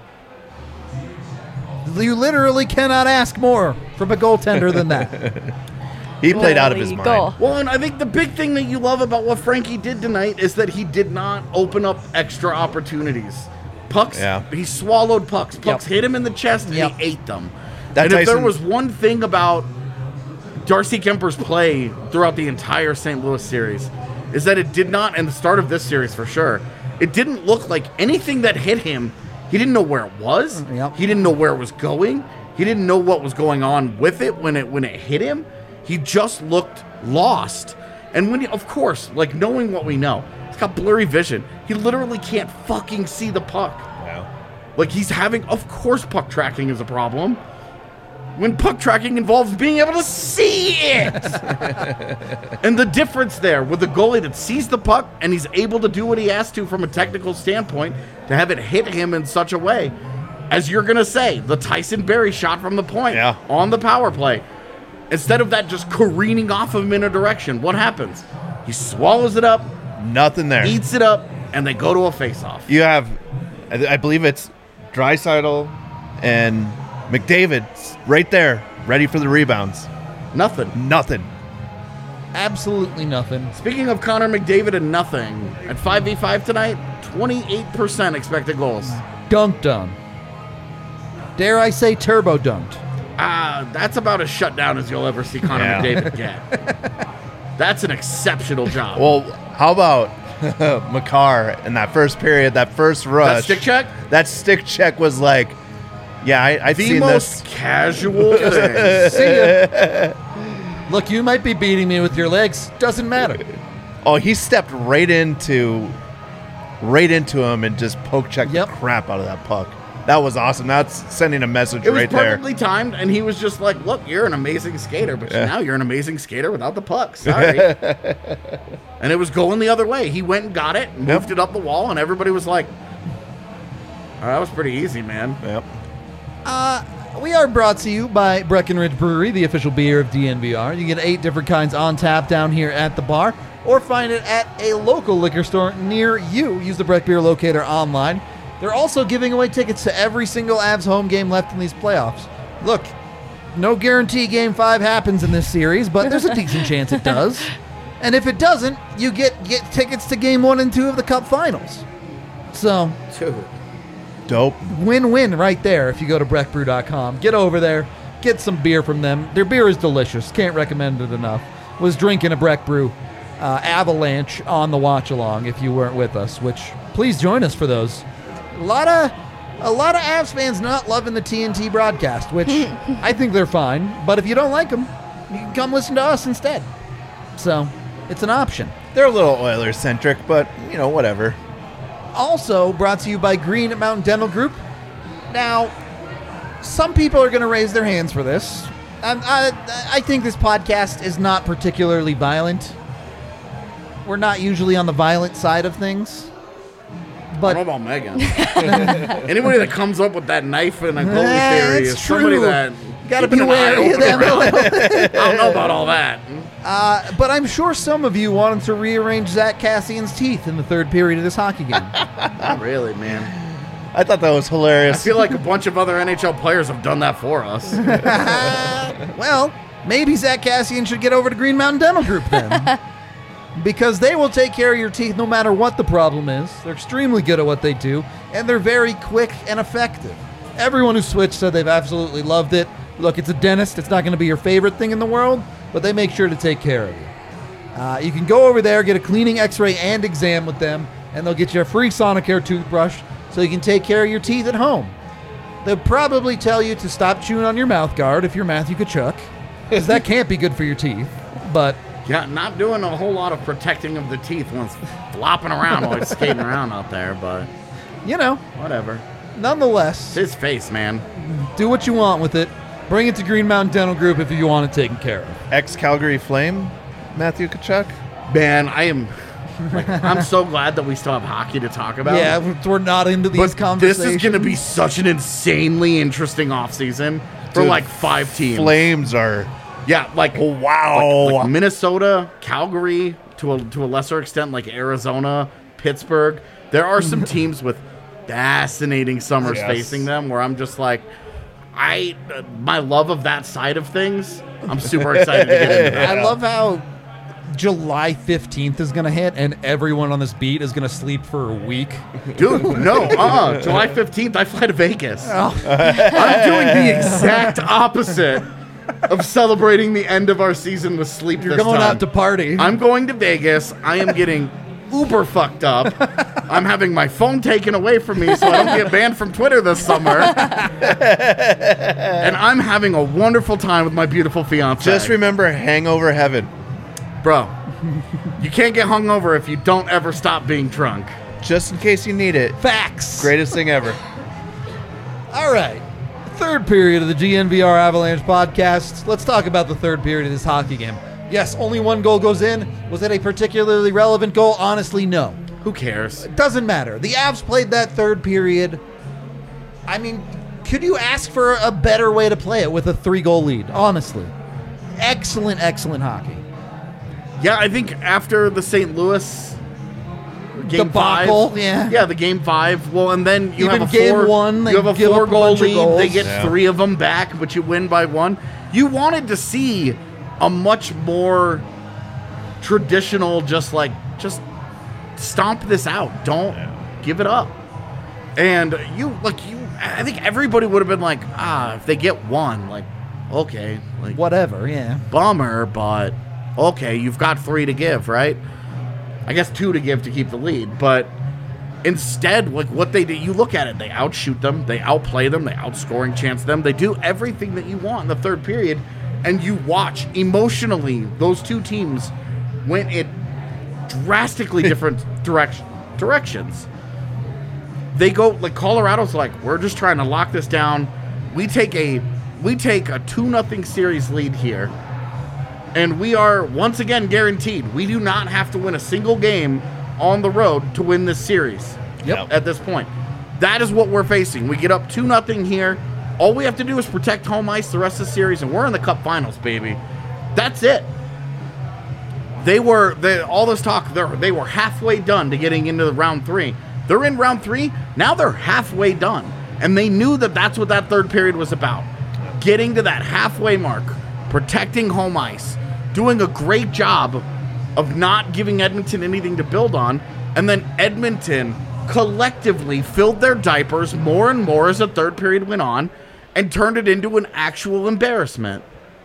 You literally cannot ask more from a goaltender than that. He played out of his Holy mind. goal. Well, and I think the big thing that you love about what Frankie did tonight is that he did not open up extra opportunities. Pucks, Yeah. he swallowed pucks. Pucks Yep. hit him in the chest and Yep. he ate them. That and if there Tyson- was one thing about Darcy Kemper's play throughout the entire Saint Louis series, is that it did not, and the start of this series for sure, it didn't look like anything that hit him, he didn't know where it was. Yep. He didn't know where it was going. He didn't know what was going on with it when it when it hit him. He just looked lost. And when, he, of course, like knowing what we know, he's got blurry vision. He literally can't fucking see the puck. Yeah. Like he's having, of course, puck tracking is a problem. When puck tracking involves being able to see it. And the difference there with the goalie that sees the puck and he's able to do what he has to from a technical standpoint to have it hit him in such a way, as you're going to say, the Tyson Berry shot from the point Yeah. on the power play. Instead of that just careening off of him in a direction, what happens? He swallows it up, Nothing there. eats it up, and they go to a face-off. You have, I I believe it's Draisaitl and McDavid right there, ready for the rebounds. Nothing. Nothing. Absolutely nothing. Speaking of Connor McDavid and nothing, at five v five tonight, twenty-eight percent expected goals. Dunked on. Dare I say turbo dunked. Ah, that's about as shut down as you'll ever see Connor Yeah. McDavid get. That's an exceptional job. Well, how about Makar in that first period, that first rush? that stick check? That stick check was like, yeah, I, I've The seen most this. casual thing. See ya. Look, you might be beating me with your legs. Doesn't matter. Oh, he stepped right into, right into him and just poke checked Yep. the crap out of that puck. That was awesome. That's sending a message It was right there. perfectly timed, and he was just like, look, you're an amazing skater, but Yeah. now you're an amazing skater without the puck. Sorry. And it was going the other way. He went and got it, moved Yep. it up the wall, and everybody was like, oh, that was pretty easy, man. Yep. We are brought to you by Breckenridge Brewery, the official beer of D N V R. You get eight different kinds on tap down here at the bar, or find it at a local liquor store near you. Use the Breck Beer Locator online. They're also giving away tickets to every single Avs home game left in these playoffs. Look, no guarantee Game five happens in this series, but there's a decent chance it does. And if it doesn't, you get, get tickets to Game one and two of the Cup Finals. So, Dude. Dope. win-win right there if you go to breck brew dot com. Get over there, get some beer from them. Their beer is delicious. Can't recommend it enough. Was drinking a Breck Brew uh, Avalanche on the watch along if you weren't with us, which please join us for those. A lot of a lot of Avs fans not loving the T N T broadcast, which I think they're fine. But if you don't like them, you can come listen to us instead. So it's an option. They're a little Oilers centric, but you know, whatever. Also brought to you by Green Mountain Dental Group. Now, some people are going to raise their hands for this. Um, I, I think this podcast is not particularly violent. We're not usually on the violent side of things. I But don't know about Megan. Anybody that comes up with that knife and a goalie Eh, theory it's is somebody true. that Gotta keeping be an eye wary of open them. around. I don't know about all that. uh, but I'm sure some of you wanted to rearrange Zach Cassian's teeth in the third period of this hockey game. Not really, man. I thought that was I hilarious. feel like a bunch of other N H L players have done that for us. Well, maybe Zach Cassian should get over to Green Mountain Dental Group then. Because they will take care of your teeth no matter what the problem is. They're extremely good at what they do, and they're very quick and effective. Everyone who switched said they've absolutely loved it. Look, it's a dentist. It's not going to be your favorite thing in the world, but they make sure to take care of you. Uh, you can go over there, get a cleaning, x-ray, and exam with them, and they'll get you a free Sonicare toothbrush so you can take care of your teeth at home. They'll probably tell you to stop chewing on your mouth guard if you're Matthew Tkachuk, because that can't be good for your teeth. But Yeah, not doing a whole lot of protecting of the teeth once flopping around while he's skating around out there, but you know, whatever. nonetheless, It's his face, man. do what you want with it. Bring it to Green Mountain Dental Group if you want it taken care of. Ex Calgary Flame, Matthew Tkachuk. Man, I am. Like, I'm so glad that we still have hockey to talk about. Yeah, we're not into these but conversations. this is going to be such an insanely interesting offseason for Dude, like five teams. Flames are. Yeah, like wow. like, like Minnesota, Calgary, to a to a lesser extent, like Arizona, Pittsburgh. There are some teams with fascinating summers Yes. facing them where I'm just like, I uh, my love of that side of things. I'm super excited to get into that. I love how July fifteenth is going to hit and everyone on this beat is going to sleep for a week. Dude, no, uh-uh. July fifteenth, I fly to Vegas. Oh. I'm doing the exact opposite of celebrating the end of our season with sleep You're this going time. out to party. I'm going to Vegas. I am getting uber fucked up. I'm having my phone taken away from me so I don't get banned from Twitter this summer. And I'm having a wonderful time with my beautiful fiance. Just remember hangover heaven. Bro, you can't get hungover if you don't ever stop being drunk. Just in case you need it. Facts. Greatest thing ever. All right. Third period of the G N V R Avalanche podcast. Let's talk about the third period of this hockey game. Yes, only one goal goes in. Was it a particularly relevant goal? Honestly, no. Who cares? It doesn't matter. The Avs played that third period. I mean, could you ask for a better way to play it with a three-goal lead? Honestly. Excellent, excellent hockey. Yeah, I think after the Saint Louis game Debacle, five, yeah. yeah, the game five. Well, and then you Even have a game four, one, they you have a give up a four-goal bunch of lead. goals. They get Yeah. three of them back, but you win by one. You wanted to see a much more traditional, just like just stomp this out. Don't give it up. And you like you. I think everybody would have been like, ah, if they get one, like, okay, like Whatever, yeah. bummer, but okay, you've got three to give, right? I guess two to give to keep the lead, but instead, like what they do, you look at it, they outshoot them, they outplay them, they outscoring chance them, they do everything that you want in the third period, and you watch emotionally those two teams went in drastically different direction, directions. They go like Colorado's like, we're just trying to lock this down. We take a we take a two nothing series lead here. And we are once again guaranteed we do not have to win a single game on the road to win this series. Yep. At this point. That is what we're facing. We get up two nothing here. All we have to do is protect home ice the rest of the series, and we're in the Cup Finals, baby. That's it. They were they, all this talk. They they were halfway done to getting into the round three. They're in round three now. They're halfway done, and they knew that that's what that third period was about. Getting to that halfway mark, protecting home ice, doing a great job of not giving Edmonton anything to build on, and then Edmonton collectively filled their diapers more and more as the third period went on, and turned it into an actual embarrassment.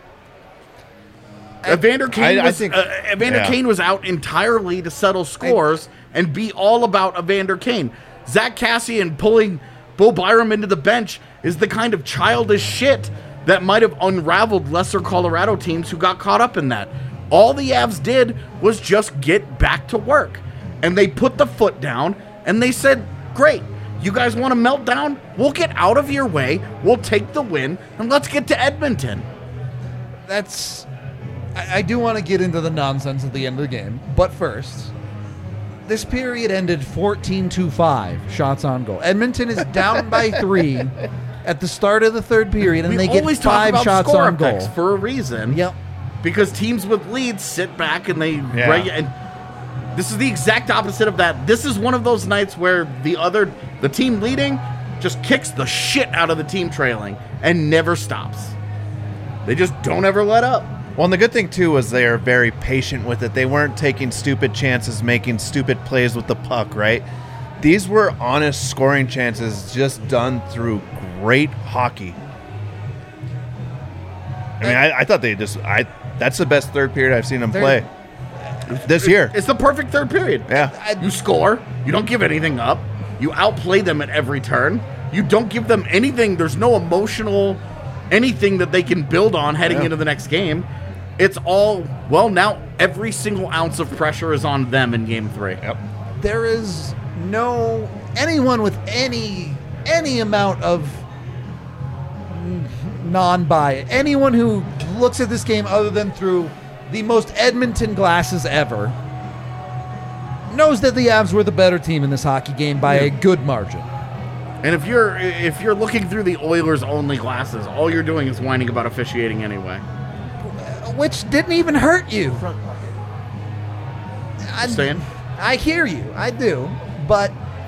Evander Kane I- I was think- uh, Evander yeah. Kane was out entirely to settle scores and be all about Evander Kane. Zach Cassian pulling Bo Byram into the bench is the kind of childish shit that might have unraveled lesser Colorado teams who got caught up in that. All the Avs did was just get back to work. And they put the foot down and they said, great, you guys want to melt down? We'll get out of your way, we'll take the win, and let's get to Edmonton. That's... I, I do want to get into the nonsense at the end of the game, but first, this period ended fourteen to five shots on goal. Edmonton is down by three at the start of the third period, and we they get always talk five about shots score on goal. effects for a reason. Yep. Because teams with leads sit back and they Yeah. regu- and this is the exact opposite of that. This is one of those nights where the other the team leading just kicks the shit out of the team trailing and never stops. They just don't ever let up. Well, and the good thing, too, was they are very patient with it. They weren't taking stupid chances, making stupid plays with the puck, right? These were honest scoring chances just done through great hockey. I mean, I, I thought they just... I That's the best third period I've seen them They're- play this year. It's the perfect third period. Yeah. You score, you don't give anything up, you outplay them at every turn, you don't give them anything, there's no emotional anything that they can build on heading Yeah. into the next game. It's all, well, now every single ounce of pressure is on them in game three. Yep. There is no... Anyone with any any amount of non-bias, anyone who looks at this game other than through the most Edmonton glasses ever, knows that the Avs were the better team in this hockey game by a good margin. And if you're if you're looking through the Oilers only glasses, all you're doing is whining about officiating anyway. Which didn't even hurt you. I, Saying? I hear you. I do. But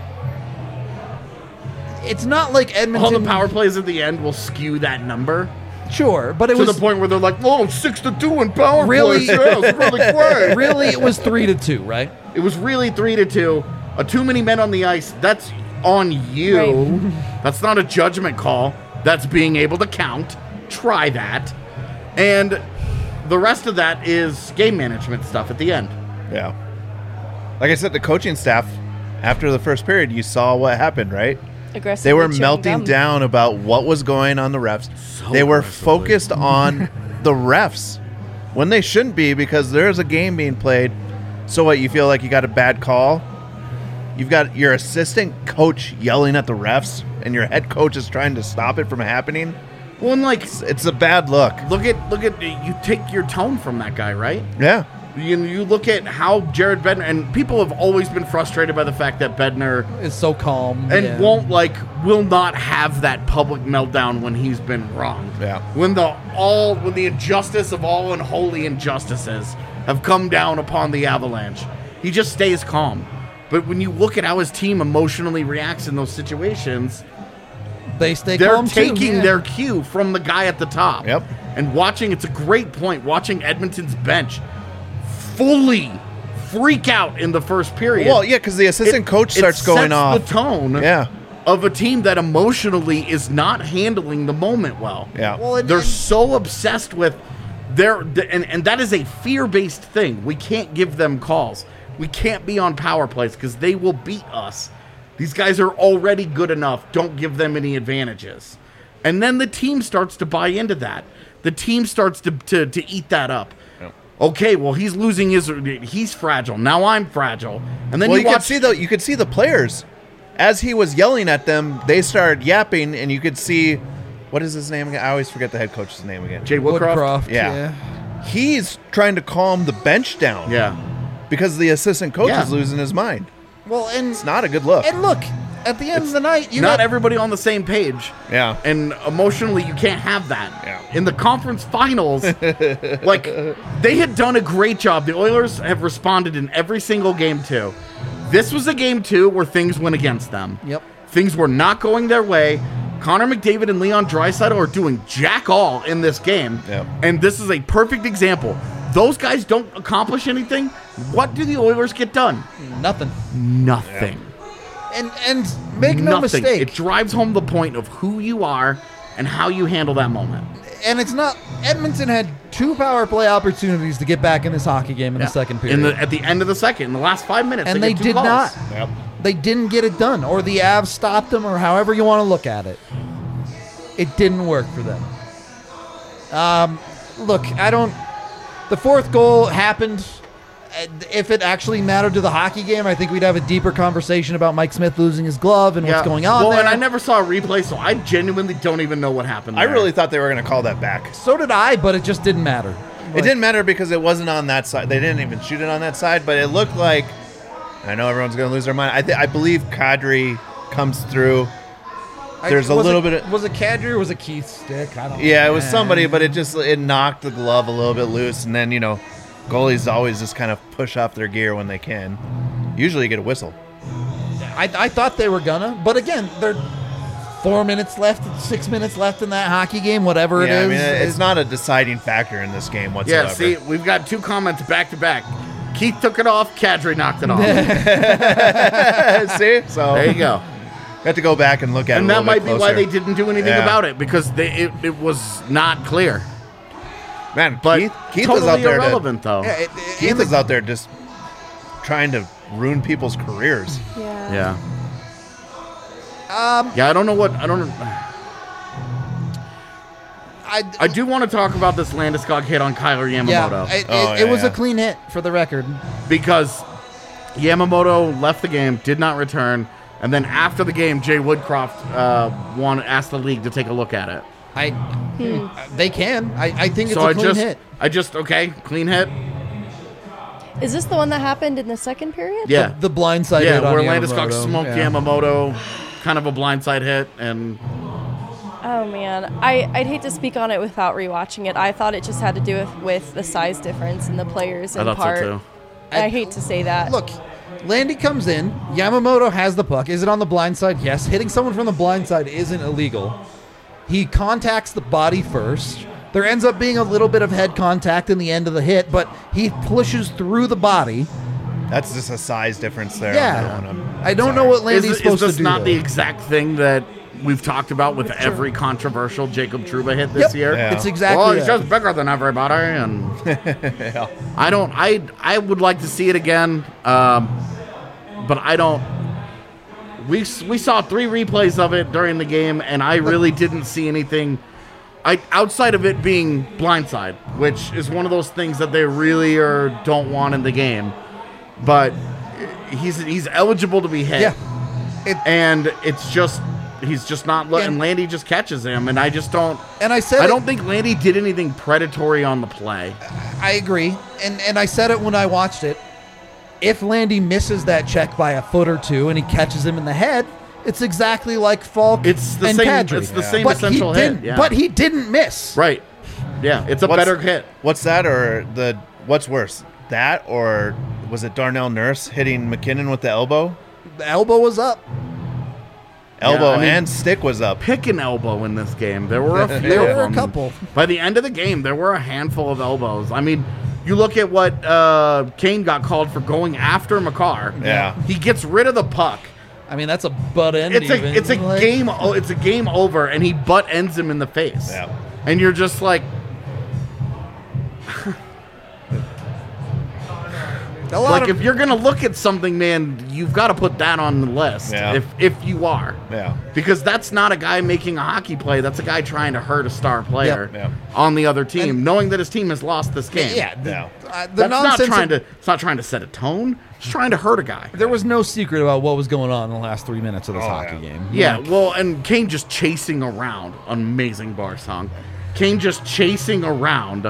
it's not like Edmonton. All the power plays at the end will skew that number Sure, but it to was the point where they're like, "Oh, six to two in power Really? plays." Yeah, it's really great. really it was three to two, right? It was really three to two. A too many men on the ice. That's on you. Right. That's not a judgment call. That's being able to count. Try that. And the rest of that is game management stuff at the end. Yeah. Like I said, the coaching staff, after the first period, you saw what happened, right? Aggressively They were chewing melting gum. down about what was going on the refs. they were aggressively. focused on the refs when they shouldn't be, because there's a game being played. So what, you feel like you got a bad call? You've got your assistant coach yelling at the refs, and your head coach is trying to stop it from happening. Well, and like, It's, it's a bad look. look at look at you take your tone from that guy, right? Yeah. You, you look at how Jared Bednar, and people have always been frustrated by the fact that Bednar It's so calm. and yeah. won't like will not have that public meltdown when he's been wrong. Yeah. When the all when the injustice of all unholy injustices have come down upon the Avalanche, he just stays calm. But when you look at how his team emotionally reacts in those situations, They stay they're calm too, taking yeah. their cue from the guy at the top. Yep. And watching, it's a great point, watching Edmonton's bench fully freak out in the first period. Well, yeah, because the assistant It- coach it starts going sets off. the tone Yeah. of a team that emotionally is not handling the moment well. Yeah. Well, and- They're and- so obsessed with their, and, and that is a fear-based thing. We can't give them calls. We can't be on power plays because they will beat us. These guys are already good enough. Don't give them any advantages. And then the team starts to buy into that. The team starts to, to, to eat that up. Okay, well, he's losing his, he's fragile. Now I'm fragile. And then Well, you, you, watch, could see the you could see the players as he was yelling at them. They started yapping, and you could see what is his name again? I always forget the head coach's name again. Jay Woodcroft. Woodcroft, Yeah. yeah. He's trying to calm the bench down. Yeah. because the assistant coach Yeah. is losing his mind. Well, and It's not a good look. and look, at the end of the night, you Not got, everybody on the same page. Yeah. And emotionally, you can't have that. Yeah. In the conference finals, like, they had done a great job. The Oilers have responded in every single game, too. This was a game, too, where things went against them. Yep. Things were not going their way. Connor McDavid and Leon Draisaitl are doing jack all in this game. Yep. And this is a perfect example. Those guys don't accomplish anything. What do the Oilers get done? nothing. Nothing. And and make no Nothing. mistake, It drives home the point of who you are and how you handle that moment. and it's not. Edmonton had two power play opportunities to get back in this hockey game in Yeah. the second period, In the, at the end of the second, in the last five minutes, and they, they get two did calls. not. Yep. They didn't get it done, or the Avs stopped them, or however you want to look at it. It didn't work for them. Um, look, I don't. The fourth goal happened. and If it actually mattered to the hockey game, I think we'd have a deeper conversation about Mike Smith losing his glove and Yeah. what's going on Well, there. and I never saw a replay, so I genuinely don't even know what happened. I there. really thought they were going to call that back. So did I, but it just didn't matter. It didn't matter because it wasn't on that side. They didn't even shoot it on that side, but it looked like. I know everyone's going to lose their mind. I, th- I believe Kadri comes through. I- There's a was little it, bit of- Was it Kadri or was it Keith Stick? I don't know. Yeah, it was Man. somebody, but it just it knocked the glove a little bit loose, and then you know, goalies always just kind of push off their gear when they can. Usually, you get a whistle. I, I thought they were gonna, but again, they're four minutes left, six minutes left in that hockey game, whatever yeah, it I is. mean, it's not a deciding factor in this game whatsoever. Yeah, see, we've got two comments back to back. Keith took it off, Kadri knocked it off. see, so There you go. have to go back and look at And it. a that little might bit be why closer. they didn't do anything Yeah. about it, because they, it, it was not clear. Man, But Keith, Keith totally was out there. irrelevant, To, though. Yeah, it- Keith and was the- out there just trying to ruin people's careers. Yeah. Yeah. Um, Yeah, I don't know what... I don't know. I, I do want to talk about this Landeskog hit on Kyler Yamamoto. yeah, it, Oh, it, yeah, it was yeah. a clean hit for the record. Because Yamamoto left the game, did not return, and then after the game, Jay Woodcroft uh, won, asked the league to take a look at it. I, they can. I, I think it's so a I clean just, hit. I just, okay, clean hit. Is this the one that happened in the second period? Yeah. The blindside Yeah, hit on where Landeskog Yamamoto. smoked Yeah. Yamamoto, kind of a blindside hit, and Oh man, I, I'd hate to speak on it without rewatching it. I thought it just had to do with, with the size difference in the players I in thought part. so too. I, I- hate to say that. Look, Landy comes in. Yamamoto has the puck. Is it on the blind side? Yes. Hitting someone from the blind side isn't illegal. He contacts the body first. There ends up being a little bit of head contact in the end of the hit, but he pushes through the body. That's just a size difference there. Yeah. On that one. I'm I don't sorry. know what Is, Landy's is supposed this to do. not the though. exact thing that we've talked about with every controversial Jacob Trouba hit this Yep. year? Yeah. It's exactly Well, he's that. just bigger than everybody, and I don't. I I would like to see it again, um, but I don't. We s- we saw three replays of it during the game, and I really didn't see anything. I outside of it being blindside, which is one of those things that they really or don't want in the game, but he's he's eligible to be hit. Yeah. It, And it's just he's just not letting And- Landy just catches him, and I just don't. and I said I it- don't think Landy did anything predatory on the play. I agree, and and I said it when I watched it. If Landy misses that check by a foot or two and he catches him in the head, it's exactly like Falk It's the and same. Kadri. It's the Yeah. same But he essential hit. didn't. Yeah. But he didn't miss. right. Yeah, it's a What's- better hit. What's that, or the what's worse, that or was it Darnell Nurse hitting McKinnon with the elbow? The elbow was up. Elbow I mean- and stick was up. Pick an elbow in this game. There were a few. There of were a them. couple. By the end of the game, there were a handful of elbows. I mean, you look at what uh, Kane got called for going after Makar. Yeah. He gets rid of the puck. I mean, that's a butt end. It's a even. it's a Like, game o- it's a game over, and he butt ends him in the face. Yeah. And you're just like, A lot like of, if you're gonna look at something, man, you've got to put that on the list. Yeah. If if you are, Yeah. because that's not a guy making a hockey play. That's a guy trying to hurt a star player Yep. Yep. on the other team, And- knowing that his team has lost this game. yeah, the, Yeah. uh, the that's not nonsense. trying of- to. It's not trying to set a tone. It's trying to hurt a guy. There was no secret about what was going on in the last three minutes of this Oh, hockey yeah. game. Yeah, well, and Kane just chasing around. Amazing bar song. Kane just chasing around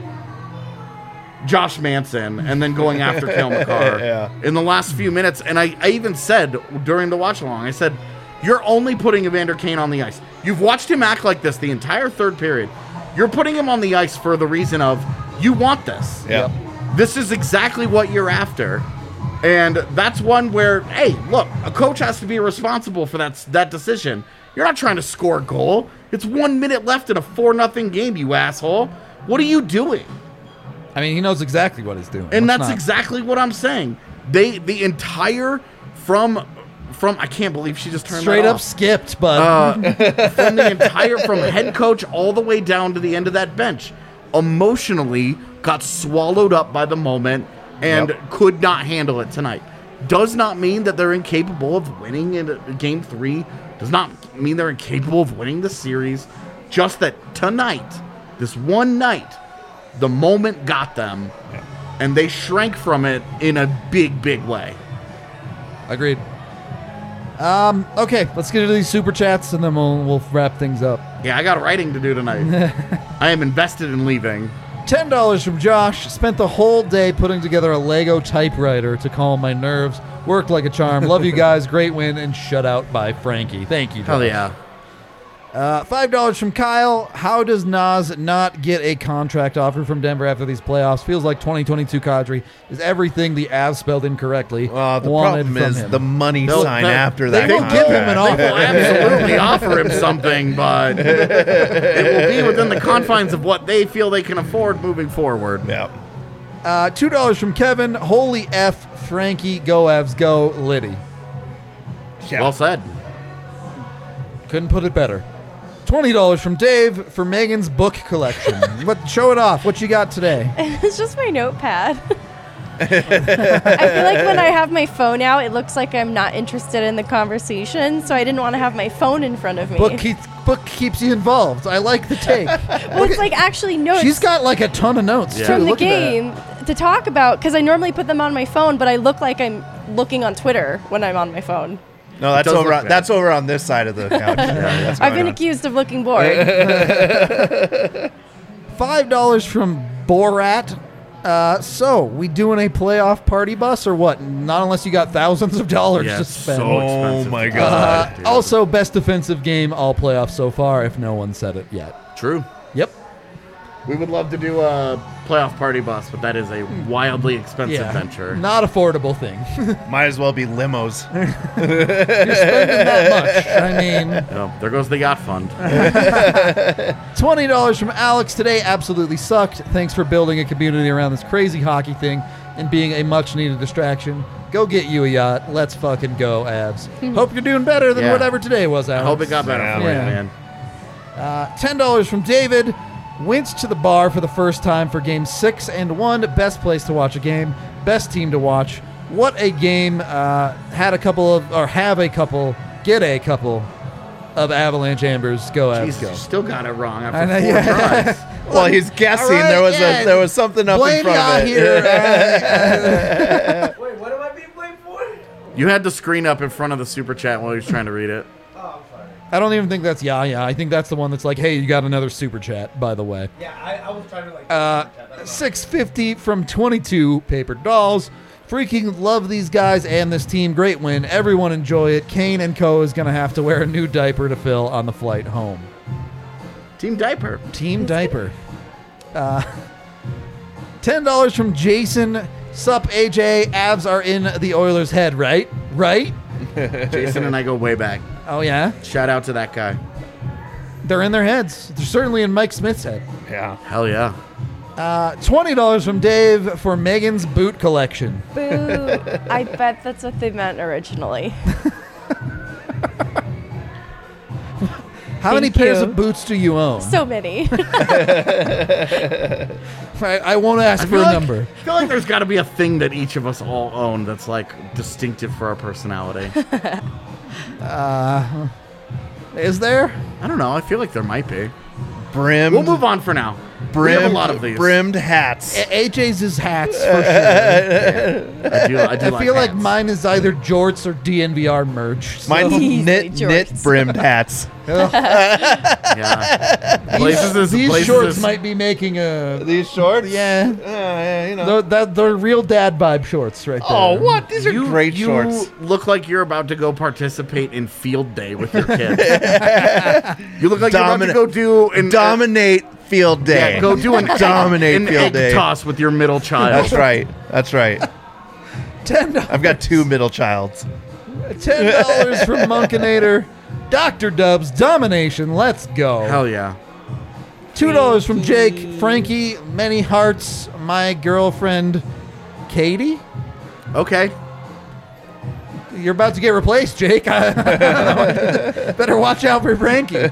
Josh Manson and then going after Cale Makar Yeah. in the last few minutes. And I, I even said during the watch along, I said, you're only putting Evander Kane on the ice. You've watched him act like this the entire third period. You're putting him on the ice for the reason of you want this. Yeah. This is exactly what you're after. And that's one where, hey, look, a coach has to be responsible for that that decision. You're not trying to score a goal. It's one minute left in a four nothing game, you asshole. What are you doing? I mean, he knows exactly what he's doing. And Let's that's not- exactly what I'm saying. They the entire from from I can't believe she just turned straight that up off. skipped, but Uh, from the entire from head coach all the way down to the end of that bench, emotionally got swallowed up by the moment and Yep. could not handle it tonight. Does not mean that they're incapable of winning in game three. Does not mean they're incapable of winning the series. Just that tonight, this one night, the moment got them, and they shrank from it in a big, big way. agreed. Um, okay, let's get into these super chats and then we'll we'll wrap things up. Yeah, I got writing to do tonight. I am invested in leaving. Ten dollars from Josh. Spent the whole day putting together a Lego typewriter to calm my nerves. Worked like a charm. Love you guys. Great win and shutout by Frankie. Thank you, Josh. Hell yeah. Uh, Five dollars from Kyle. How does Nas not get a contract offer from Denver after these playoffs? Feels like twenty twenty-two Kadri is everything the Avs spelled incorrectly. Well, the wanted problem from is him. the money They'll- sign they- after they that. will give him an contract. offer. Will absolutely offer him something, but it will be within the confines of what they feel they can afford moving forward. Yeah. Uh, Two dollars from Kevin. Holy F, Frankie. Go Avs. Go Liddy. Yeah. Well said. Couldn't put it better. Twenty dollars from Dave for Megan's book collection. What? Show it off. What you got today? It's just my notepad. I feel like when I have my phone out, it looks like I'm not interested in the conversation, so I didn't want to have my phone in front of me. Book keeps book keeps you involved. I like the take. well, it's like actually notes She's got like a ton of notes Yeah. too. from the Look at that. game to talk about, because I normally put them on my phone, but I look like I'm looking on Twitter when I'm on my phone. No, that's does over. look On, bad. that's over on this side of the couch. Yeah, that's I've going been on. accused of looking bored. Five dollars from Borat. Uh, so, we doing a playoff party bus or what? Not unless you got thousands of dollars Yeah, to spend. so expensive. Oh my to God. Uh, buy, dude. also, best defensive game all playoffs so far, if no one said it yet. True. Yep. We would love to do a playoff party bus, but that is a wildly expensive Yeah. venture. Not affordable thing. Might as well be limos. You're spending that much. I mean, Oh, there goes the yacht fund. twenty dollars from Alex today absolutely sucked. Thanks for building a community around this crazy hockey thing and being a much needed distraction. Go get you a yacht. Let's fucking go, Abs. Hope you're doing better than Yeah. whatever today was, I Alex. hope it got better for Yeah. you, man. Uh, ten dollars from David. Went to the bar for the first time for game six and one. Best place to watch a game. Best team to watch. What a game. Uh, had a couple of, or have a couple, get a couple of Avalanche Ambers. Go, Avs, Jesus, go. you still got it wrong I after know, four yeah. tries. Well, he's guessing. All right, there was yeah. a there was something up Blame in front y'all of it. here. uh, Wait, what am I being blamed for? You had the screen up in front of the super chat while he was trying to read it. Oh, I'm sorry. I don't even think that's yeah, yeah. I think that's the one that's like, hey, you got another super chat, by the way. Yeah, I, I was trying to like. Uh, six fifty from twenty-two paper dolls. Freaking love these guys and this team. Great win. Everyone enjoy it. Kane and Co. is going to have to wear a new diaper to fill on the flight home. Team Diaper. Team diaper. Uh, ten dollars from Jason. Sup, A J. Avs are in the Oilers' head, right? Right? Jason and I go way back. Oh, yeah? Shout out to that guy. They're in their heads. They're certainly in Mike Smith's head. Yeah. Hell yeah. Uh, twenty dollars from Dave for Megan's boot collection. Boo. I bet that's what they meant originally. How many Thank pairs you. of boots do you own? So many. I, I won't ask I for feel a like, number. I feel like there's got to be a thing that each of us all own that's like distinctive for our personality. Uh, is there? I don't know. I feel like there might be. Brimmed, We'll move on for now. we brimmed, have a lot of these. brimmed hats. A- AJ's is hats for sure. I do. I do. I like feel like hats. mine is either jorts or D N V R merch. So- Mine's Easily knit knit jorts. brimmed hats. Yeah. Places is These places shorts is, might be making a. These shorts? Yeah. Uh, yeah, you know. They're, that, they're real dad vibe shorts right there. Oh, what? These are You, great you shorts. look like you're about to go participate in field day with your kids. You look like Domina- you're about to go do an Dominate field day. Yeah, go do an Dominate an field egg day. toss with your middle child. That's right. That's right. ten dollars. I've got two middle childs. ten dollars from Monkinator. Doctor Dubs, domination. Let's go. Hell yeah. two dollars from Jake. Frankie, many hearts. My girlfriend, Katie. Okay. You're about to get replaced, Jake. Better watch out for Frankie.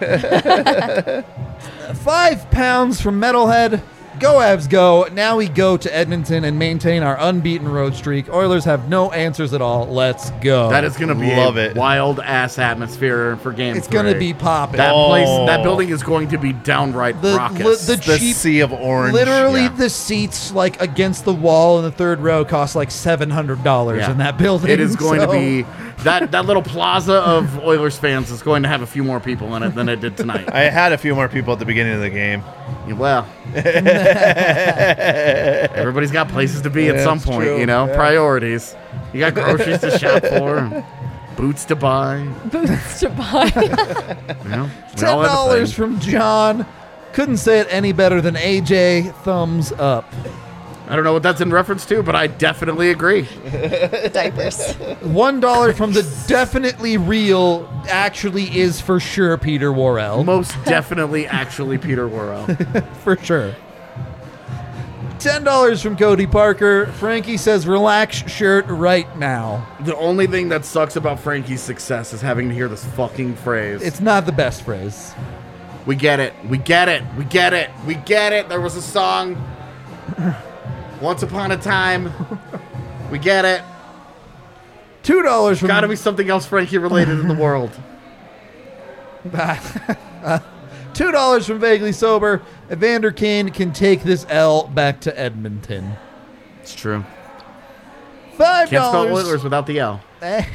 Five pounds from Metalhead. Go Avs go. Now we go to Edmonton and maintain our unbeaten road streak. Oilers have no answers at all. Let's go. That is going to be Love a it. wild ass atmosphere for game It's three. going to be popping. That Oh. place, that building is going to be downright The- raucous. the- The cheap- sea of orange. Literally, yeah. the seats like against the wall in the third row cost like seven hundred dollars Yeah. in that building. It is going so- to be that that little plaza of Oilers fans is going to have a few more people in it than it did tonight. I had a few more people at the beginning of the game. Well, everybody's got places to be at some That's point, true. you know, Yeah. priorities. You got groceries to shop for, boots to buy, Boots to buy. you know. we ten all have a dollars thing. from John. Couldn't say it any better than A J. Thumbs up. I don't know what that's in reference to, but I definitely agree. Diapers. One dollar from the definitely real, actually is for sure Peter Worrell. Most definitely, actually, Peter Worrell. For sure. Ten dollars from Cody Parker. Frankie says, "Relax, shirt right now." The only thing that sucks about Frankie's success is having to hear this fucking phrase. It's not the best phrase. We get it. We get it. We get it. We get it. There was a song. Once upon a time. We get it. Two dollars from. Gotta be something else Frankie related in the world. Two dollars from Vaguely Sober. Evander Kane can take this L back to Edmonton. It's true. Five Can't spell dollars. Oilers without the L.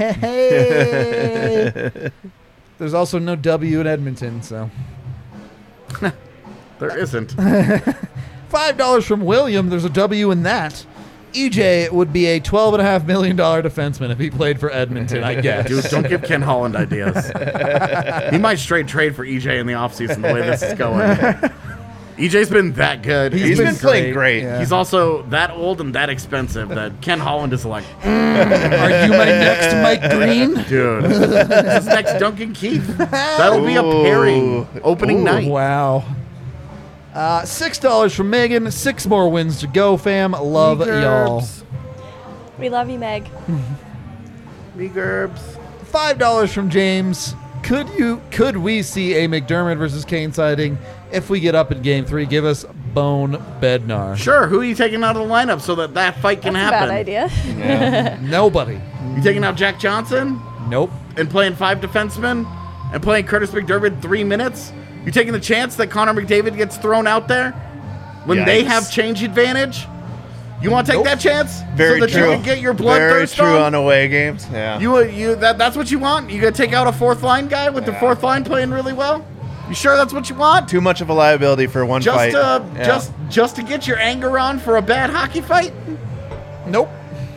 Hey. There's also no W in Edmonton, so. There isn't. five dollars from William. There's a W in that. E J would be a twelve point five million dollars defenseman if he played for Edmonton, I guess. Dude, don't give Ken Holland ideas. He might straight trade for E J in the offseason the way this is going. E J's been that good. He's been playing great. Yeah. He's also that old and that expensive that Ken Holland is like, Are you my next Mike Green? dude, this is next Duncan Keith. That'll be a pairing opening Ooh, night. Wow. Uh, six dollars from Megan. Six more wins to go, fam. Love y'all. We love you, Meg. Me Gerbs. Five dollars from James. Could you? Could we see a McDermott versus Kane sighting if we get up in Game Three? Give us Bone Bednar. Sure, who are you taking out of the lineup so that that fight can That's a happen? bad idea. Yeah. Nobody. You taking out Jack Johnson Nope. and playing five defensemen and playing Curtis McDermott three minutes? You taking the chance that Connor McDavid gets thrown out there when they Yikes. have change advantage? You want to take Nope. that chance Very so that true. you can get your Very bloodthirst true on? on away games. Yeah. You uh, you that that's what you want? You gonna take out a fourth line guy with the Yeah. fourth line playing really well? You sure that's what you want? Too much of a liability for one Just fight. uh, Yeah. just just to get your anger on for a bad hockey fight? Nope.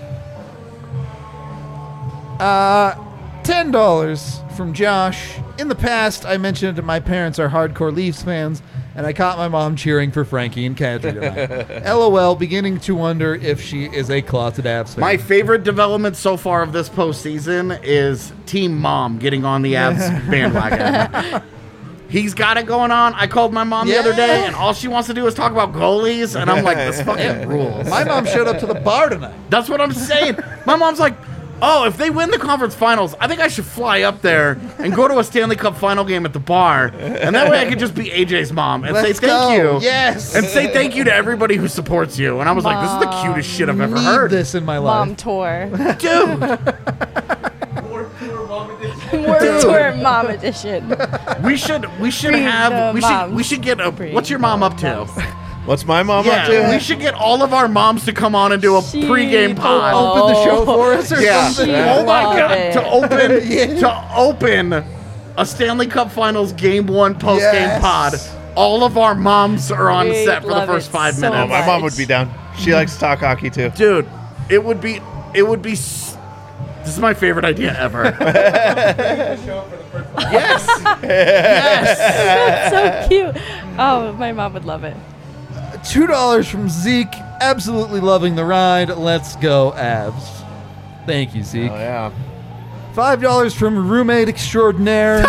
Uh, ten dollars from Josh. In the past, I mentioned my parents are hardcore Leafs fans, and I caught my mom cheering for Frankie and Kadri tonight. LOL, beginning to wonder if she is a closet Avs fan. My favorite development so far of this postseason is Team Mom getting on the Avs bandwagon. He's got it going on. I called my mom the other day, Yeah. and all she wants to do is talk about goalies, and I'm like, this fucking rules. My mom showed up to the bar tonight. That's what I'm saying. My mom's like, oh, if they win the conference finals, I think I should fly up there and go to a Stanley Cup final game at the bar, and that way I could just be A J's mom and Let's say thank go. you. Yes. And say thank you to everybody who supports you. And I was like, this is the cutest shit I've ever Need heard. this in my Mom life. tour. Dude, More pure mom edition. World tour mom edition. we should we should Free have the we should moms. we should get a Free what's your mom up to? What's my mom up Yeah, to? we should get all of our moms to come on and do a She pregame pod. Open the show for us or Yeah. something. Oh my Love god! it. To open Yeah. to open a Stanley Cup Finals Game One post game Yes. pod. All of our moms are on We set for the love first it five so Oh, minutes. my much. mom would be down. She likes to talk hockey too. Dude, it would be it would be. s- This is my favorite idea ever. Show up for the first one. Yes, yes. So cute. Oh, my mom would love it. Two dollars from Zeke. Absolutely loving the ride. Let's go, Avs. Thank you, Zeke. Oh yeah. Five dollars from roommate extraordinaire.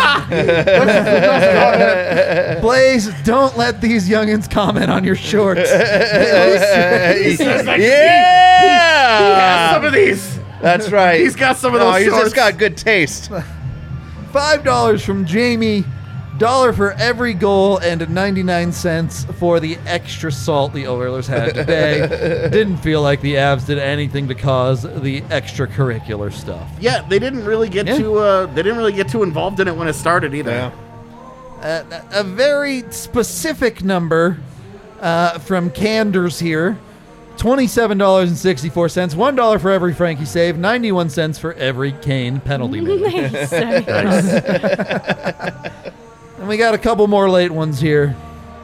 Blaze, don't let these youngins comment on your shorts. He says like, yeah. he has some of these. That's right. He's got some of No, those he's shorts. just got good taste. Five dollars from Jamie. Dollar for every goal and ninety-nine cents for the extra salt the Oilers had today. Didn't feel like the Avs did anything to cause the extracurricular stuff. Yeah, they didn't really get Yeah. too. Uh, they didn't really get too involved in it when it started either. Yeah. Uh, a very specific number uh, from Canders here. twenty-seven dollars and sixty-four cents. one dollar for every Frankie save. ninety-one cents for every Kane penalty made. Nice. And we got a couple more late ones here.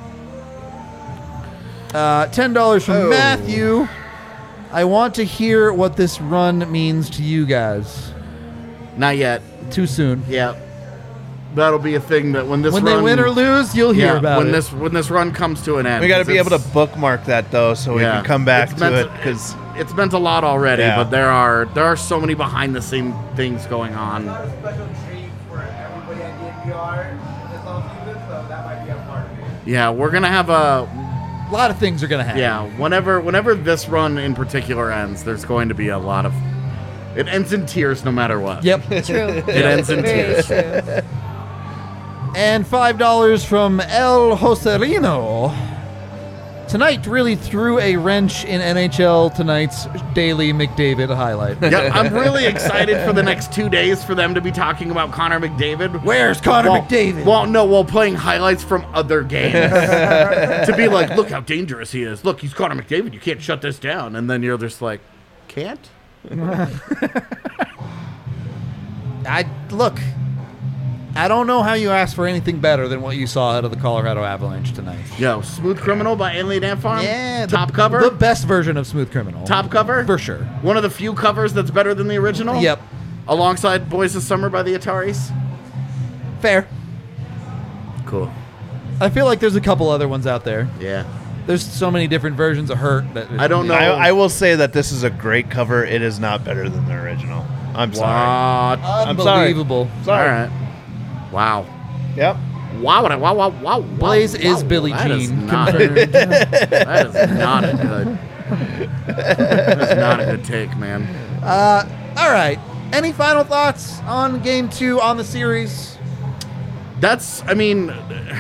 Uh, ten dollars from Oh. Matthew. I want to hear what this run means to you guys. Not yet. Too soon. Yeah, that'll be a thing that when this When run, they win or lose, you'll hear yeah, about when it. this when this run comes to an end. We got to 'cause be able to it's- bookmark that though, so we yeah, can come back it's to meant it because it's meant a lot already, Yeah. but there are there are so many behind the scene things going on. Got a special treat for everybody at D N V R this offseason, so that might be a part of it. Yeah, we're gonna have a a lot of things are going to happen. yeah. Whenever whenever this run in particular ends, there's going to be a lot of. It ends in tears no matter what. Yep. True. It ends in Very tears. true. And five dollars from El Joserino. Tonight really threw a wrench in N H L tonight's daily McDavid highlight. Yeah, I'm really excited for the next two days for them to be talking about Connor McDavid. Where's Connor Well- McDavid? Well, no, while playing highlights from other games. To be like, look how dangerous he is. Look, he's Connor McDavid. You can't shut this down. And then you're just like, can't? I look. I don't know how you ask for anything better than what you saw out of the Colorado Avalanche tonight. Yo, Smooth Criminal by Alien Ant Farm. Yeah, the- top cover. The best version of Smooth Criminal. Top cover For sure. One of the few covers that's better than the original. Yep. Alongside Boys of Summer by the Ataris. Fair. Cool. I feel like there's a couple other ones out there. Yeah. There's so many different versions of Hurt that I don't know. I, I will say that this is a great cover. It is not better than the original. I'm sorry. What? I'm sorry. Unbelievable. Sorry. All right. Wow. Yep. Wow, wow, wow, wow, wow. Blaze wow, is Billie that is Jean. not- Confirmed. That is not a good. That's not a good take, man. uh, all right. Any final thoughts on game two on the series? That's, I mean,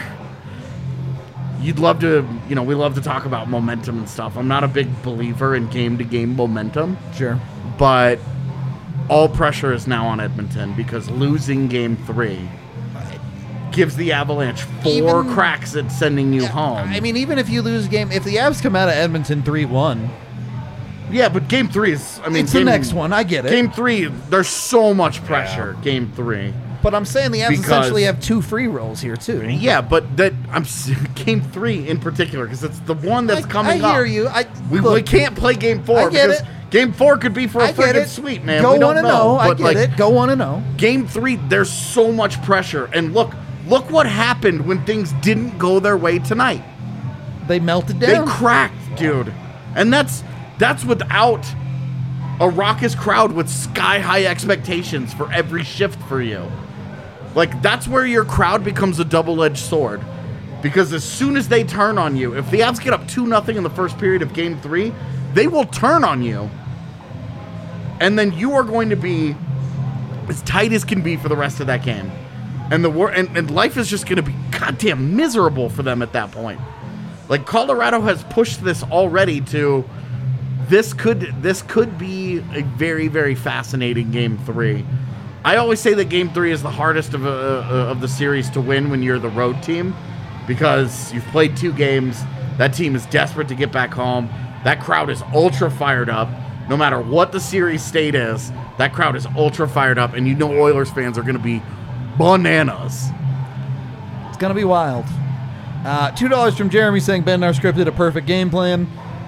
you'd love to, you know, we love to talk about momentum and stuff. I'm not a big believer in game-to-game momentum, Sure. but all pressure is now on Edmonton because losing game three gives the Avalanche four Even- cracks at sending you home. I mean, even if you lose a game, if the Avs come out of Edmonton three one, yeah, but game three is, I mean, it's game, the next one. I get it. Game three, there's so much pressure. Game three. But I'm saying the Avs Because- essentially have two free rolls here, too. Yeah, but that I'm s- game three in particular because it's the one that's I, coming I hear up. you. I, We, look, we can't play game four I get because it. game four could be for a I get freaking it. sweep, man. Go we don't want to know. know. I but get like, it. Go want to know. Game three, there's so much pressure, and look, look what happened when things didn't go their way tonight. They melted They down. cracked, dude, and that's that's without a raucous crowd with sky high expectations for every shift for you. Like, that's where your crowd becomes a double-edged sword. Because as soon as they turn on you, if the Avs get up two nothing in the first period of game three, they will turn on you. And then you are going to be as tight as can be for the rest of that game. And the wor- and, and life is just going to be goddamn miserable for them at that point. Like, Colorado has pushed this already to this could this could be a very, very fascinating game three. I always say that game three is the hardest of, uh, of the series to win when you're the road team because you've played two games. That team is desperate to get back home. That crowd is ultra fired up. No matter what the series state is, that crowd is ultra fired up, and you know Oilers fans are going to be bananas. It's going to be wild. Uh, two dollars from Jeremy saying Bednar scripted a perfect game plan.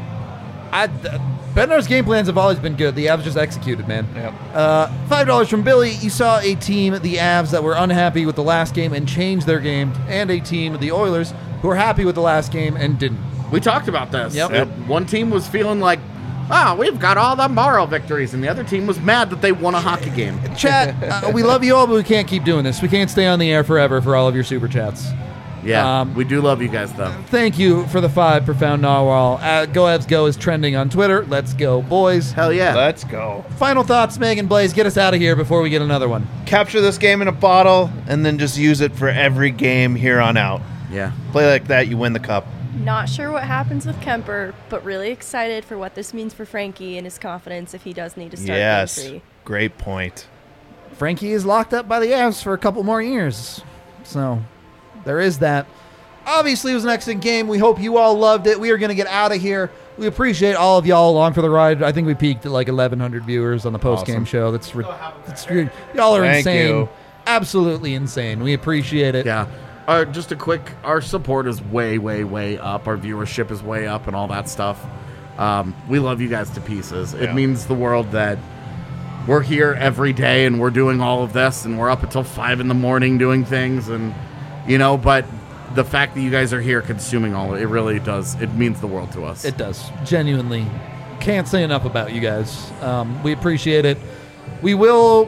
I, uh, Bednar's game plans have always been good. The Avs just executed, man. Yep. Uh, five dollars from Billy. You saw a team, the Avs, that were unhappy with the last game and changed their game, and a team, the Oilers, who were happy with the last game and didn't. We talked about this. Yep. Uh, One team was feeling like, oh, we've got all the moral victories, and the other team was mad that they won a hockey game. Chat, uh, we love you all, but we can't keep doing this. We can't stay on the air forever for all of your super chats. Yeah, Um, we do love you guys, though. Thank you for the five, Profound Narwhal. Uh, Go Avs Go is trending on Twitter. Let's go, boys. Hell yeah. Let's go. Final thoughts, Megan Blaze. Get us out of here before we get another one. Capture this game in a bottle and then just use it for every game here on out. Yeah. Play like that, you win the cup. Not sure what happens with Kemper, but really excited for what this means for Frankie and his confidence if he does need to start Yes. game three. Great point. Frankie is locked up by the Avs for a couple more years. So there is that. Obviously, it was an excellent game. We hope you all loved it. We are going to get out of here. We appreciate all of y'all along for the ride. I think we peaked at like eleven hundred viewers on the post-game Awesome. show. That's, re- that's re- y'all are Thank insane. you. Absolutely insane. We appreciate it. Yeah. Uh, just a quick, our support is way, way, way up. Our viewership is way up and all that stuff. Um, we love you guys to pieces. It Yeah. means the world that we're here every day and we're doing all of this and we're up until five in the morning doing things and, you know, but the fact that you guys are here consuming all of it, it really does. It means the world to us. It does. Genuinely. Can't say enough about you guys. Um, we appreciate it. We will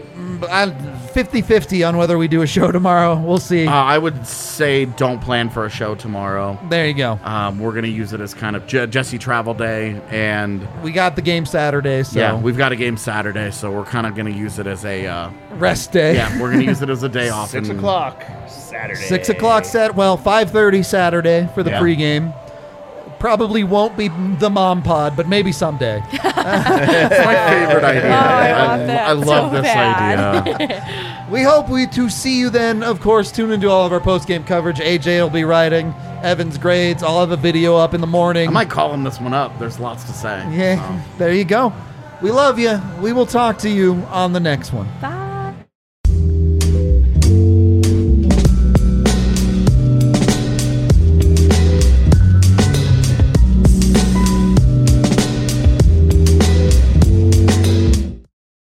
fifty-fifty on whether we do a show tomorrow. We'll see. Uh, I would say don't plan for a show tomorrow. There you go. Um, we're going to use it as kind of Je- Jesse travel day, and We got the game Saturday, so yeah, we've got a game Saturday, so we're kind of going to use it as a uh, rest day. yeah, we're going to use it as a day off. Six and- o'clock Saturday. Six o'clock set. Well, five thirty Saturday for the Yeah. pregame. Probably won't be the mom pod, but maybe someday. That's my favorite idea. Oh, I want that I love so this bad. idea. We hope we to see you then. Of course, tune into all of our post game coverage. A J will be writing Evan's grades. I'll have a video up in the morning. I might call him this one up. There's lots to say. Yeah, there you go. We love you. We will talk to you on the next one. Bye.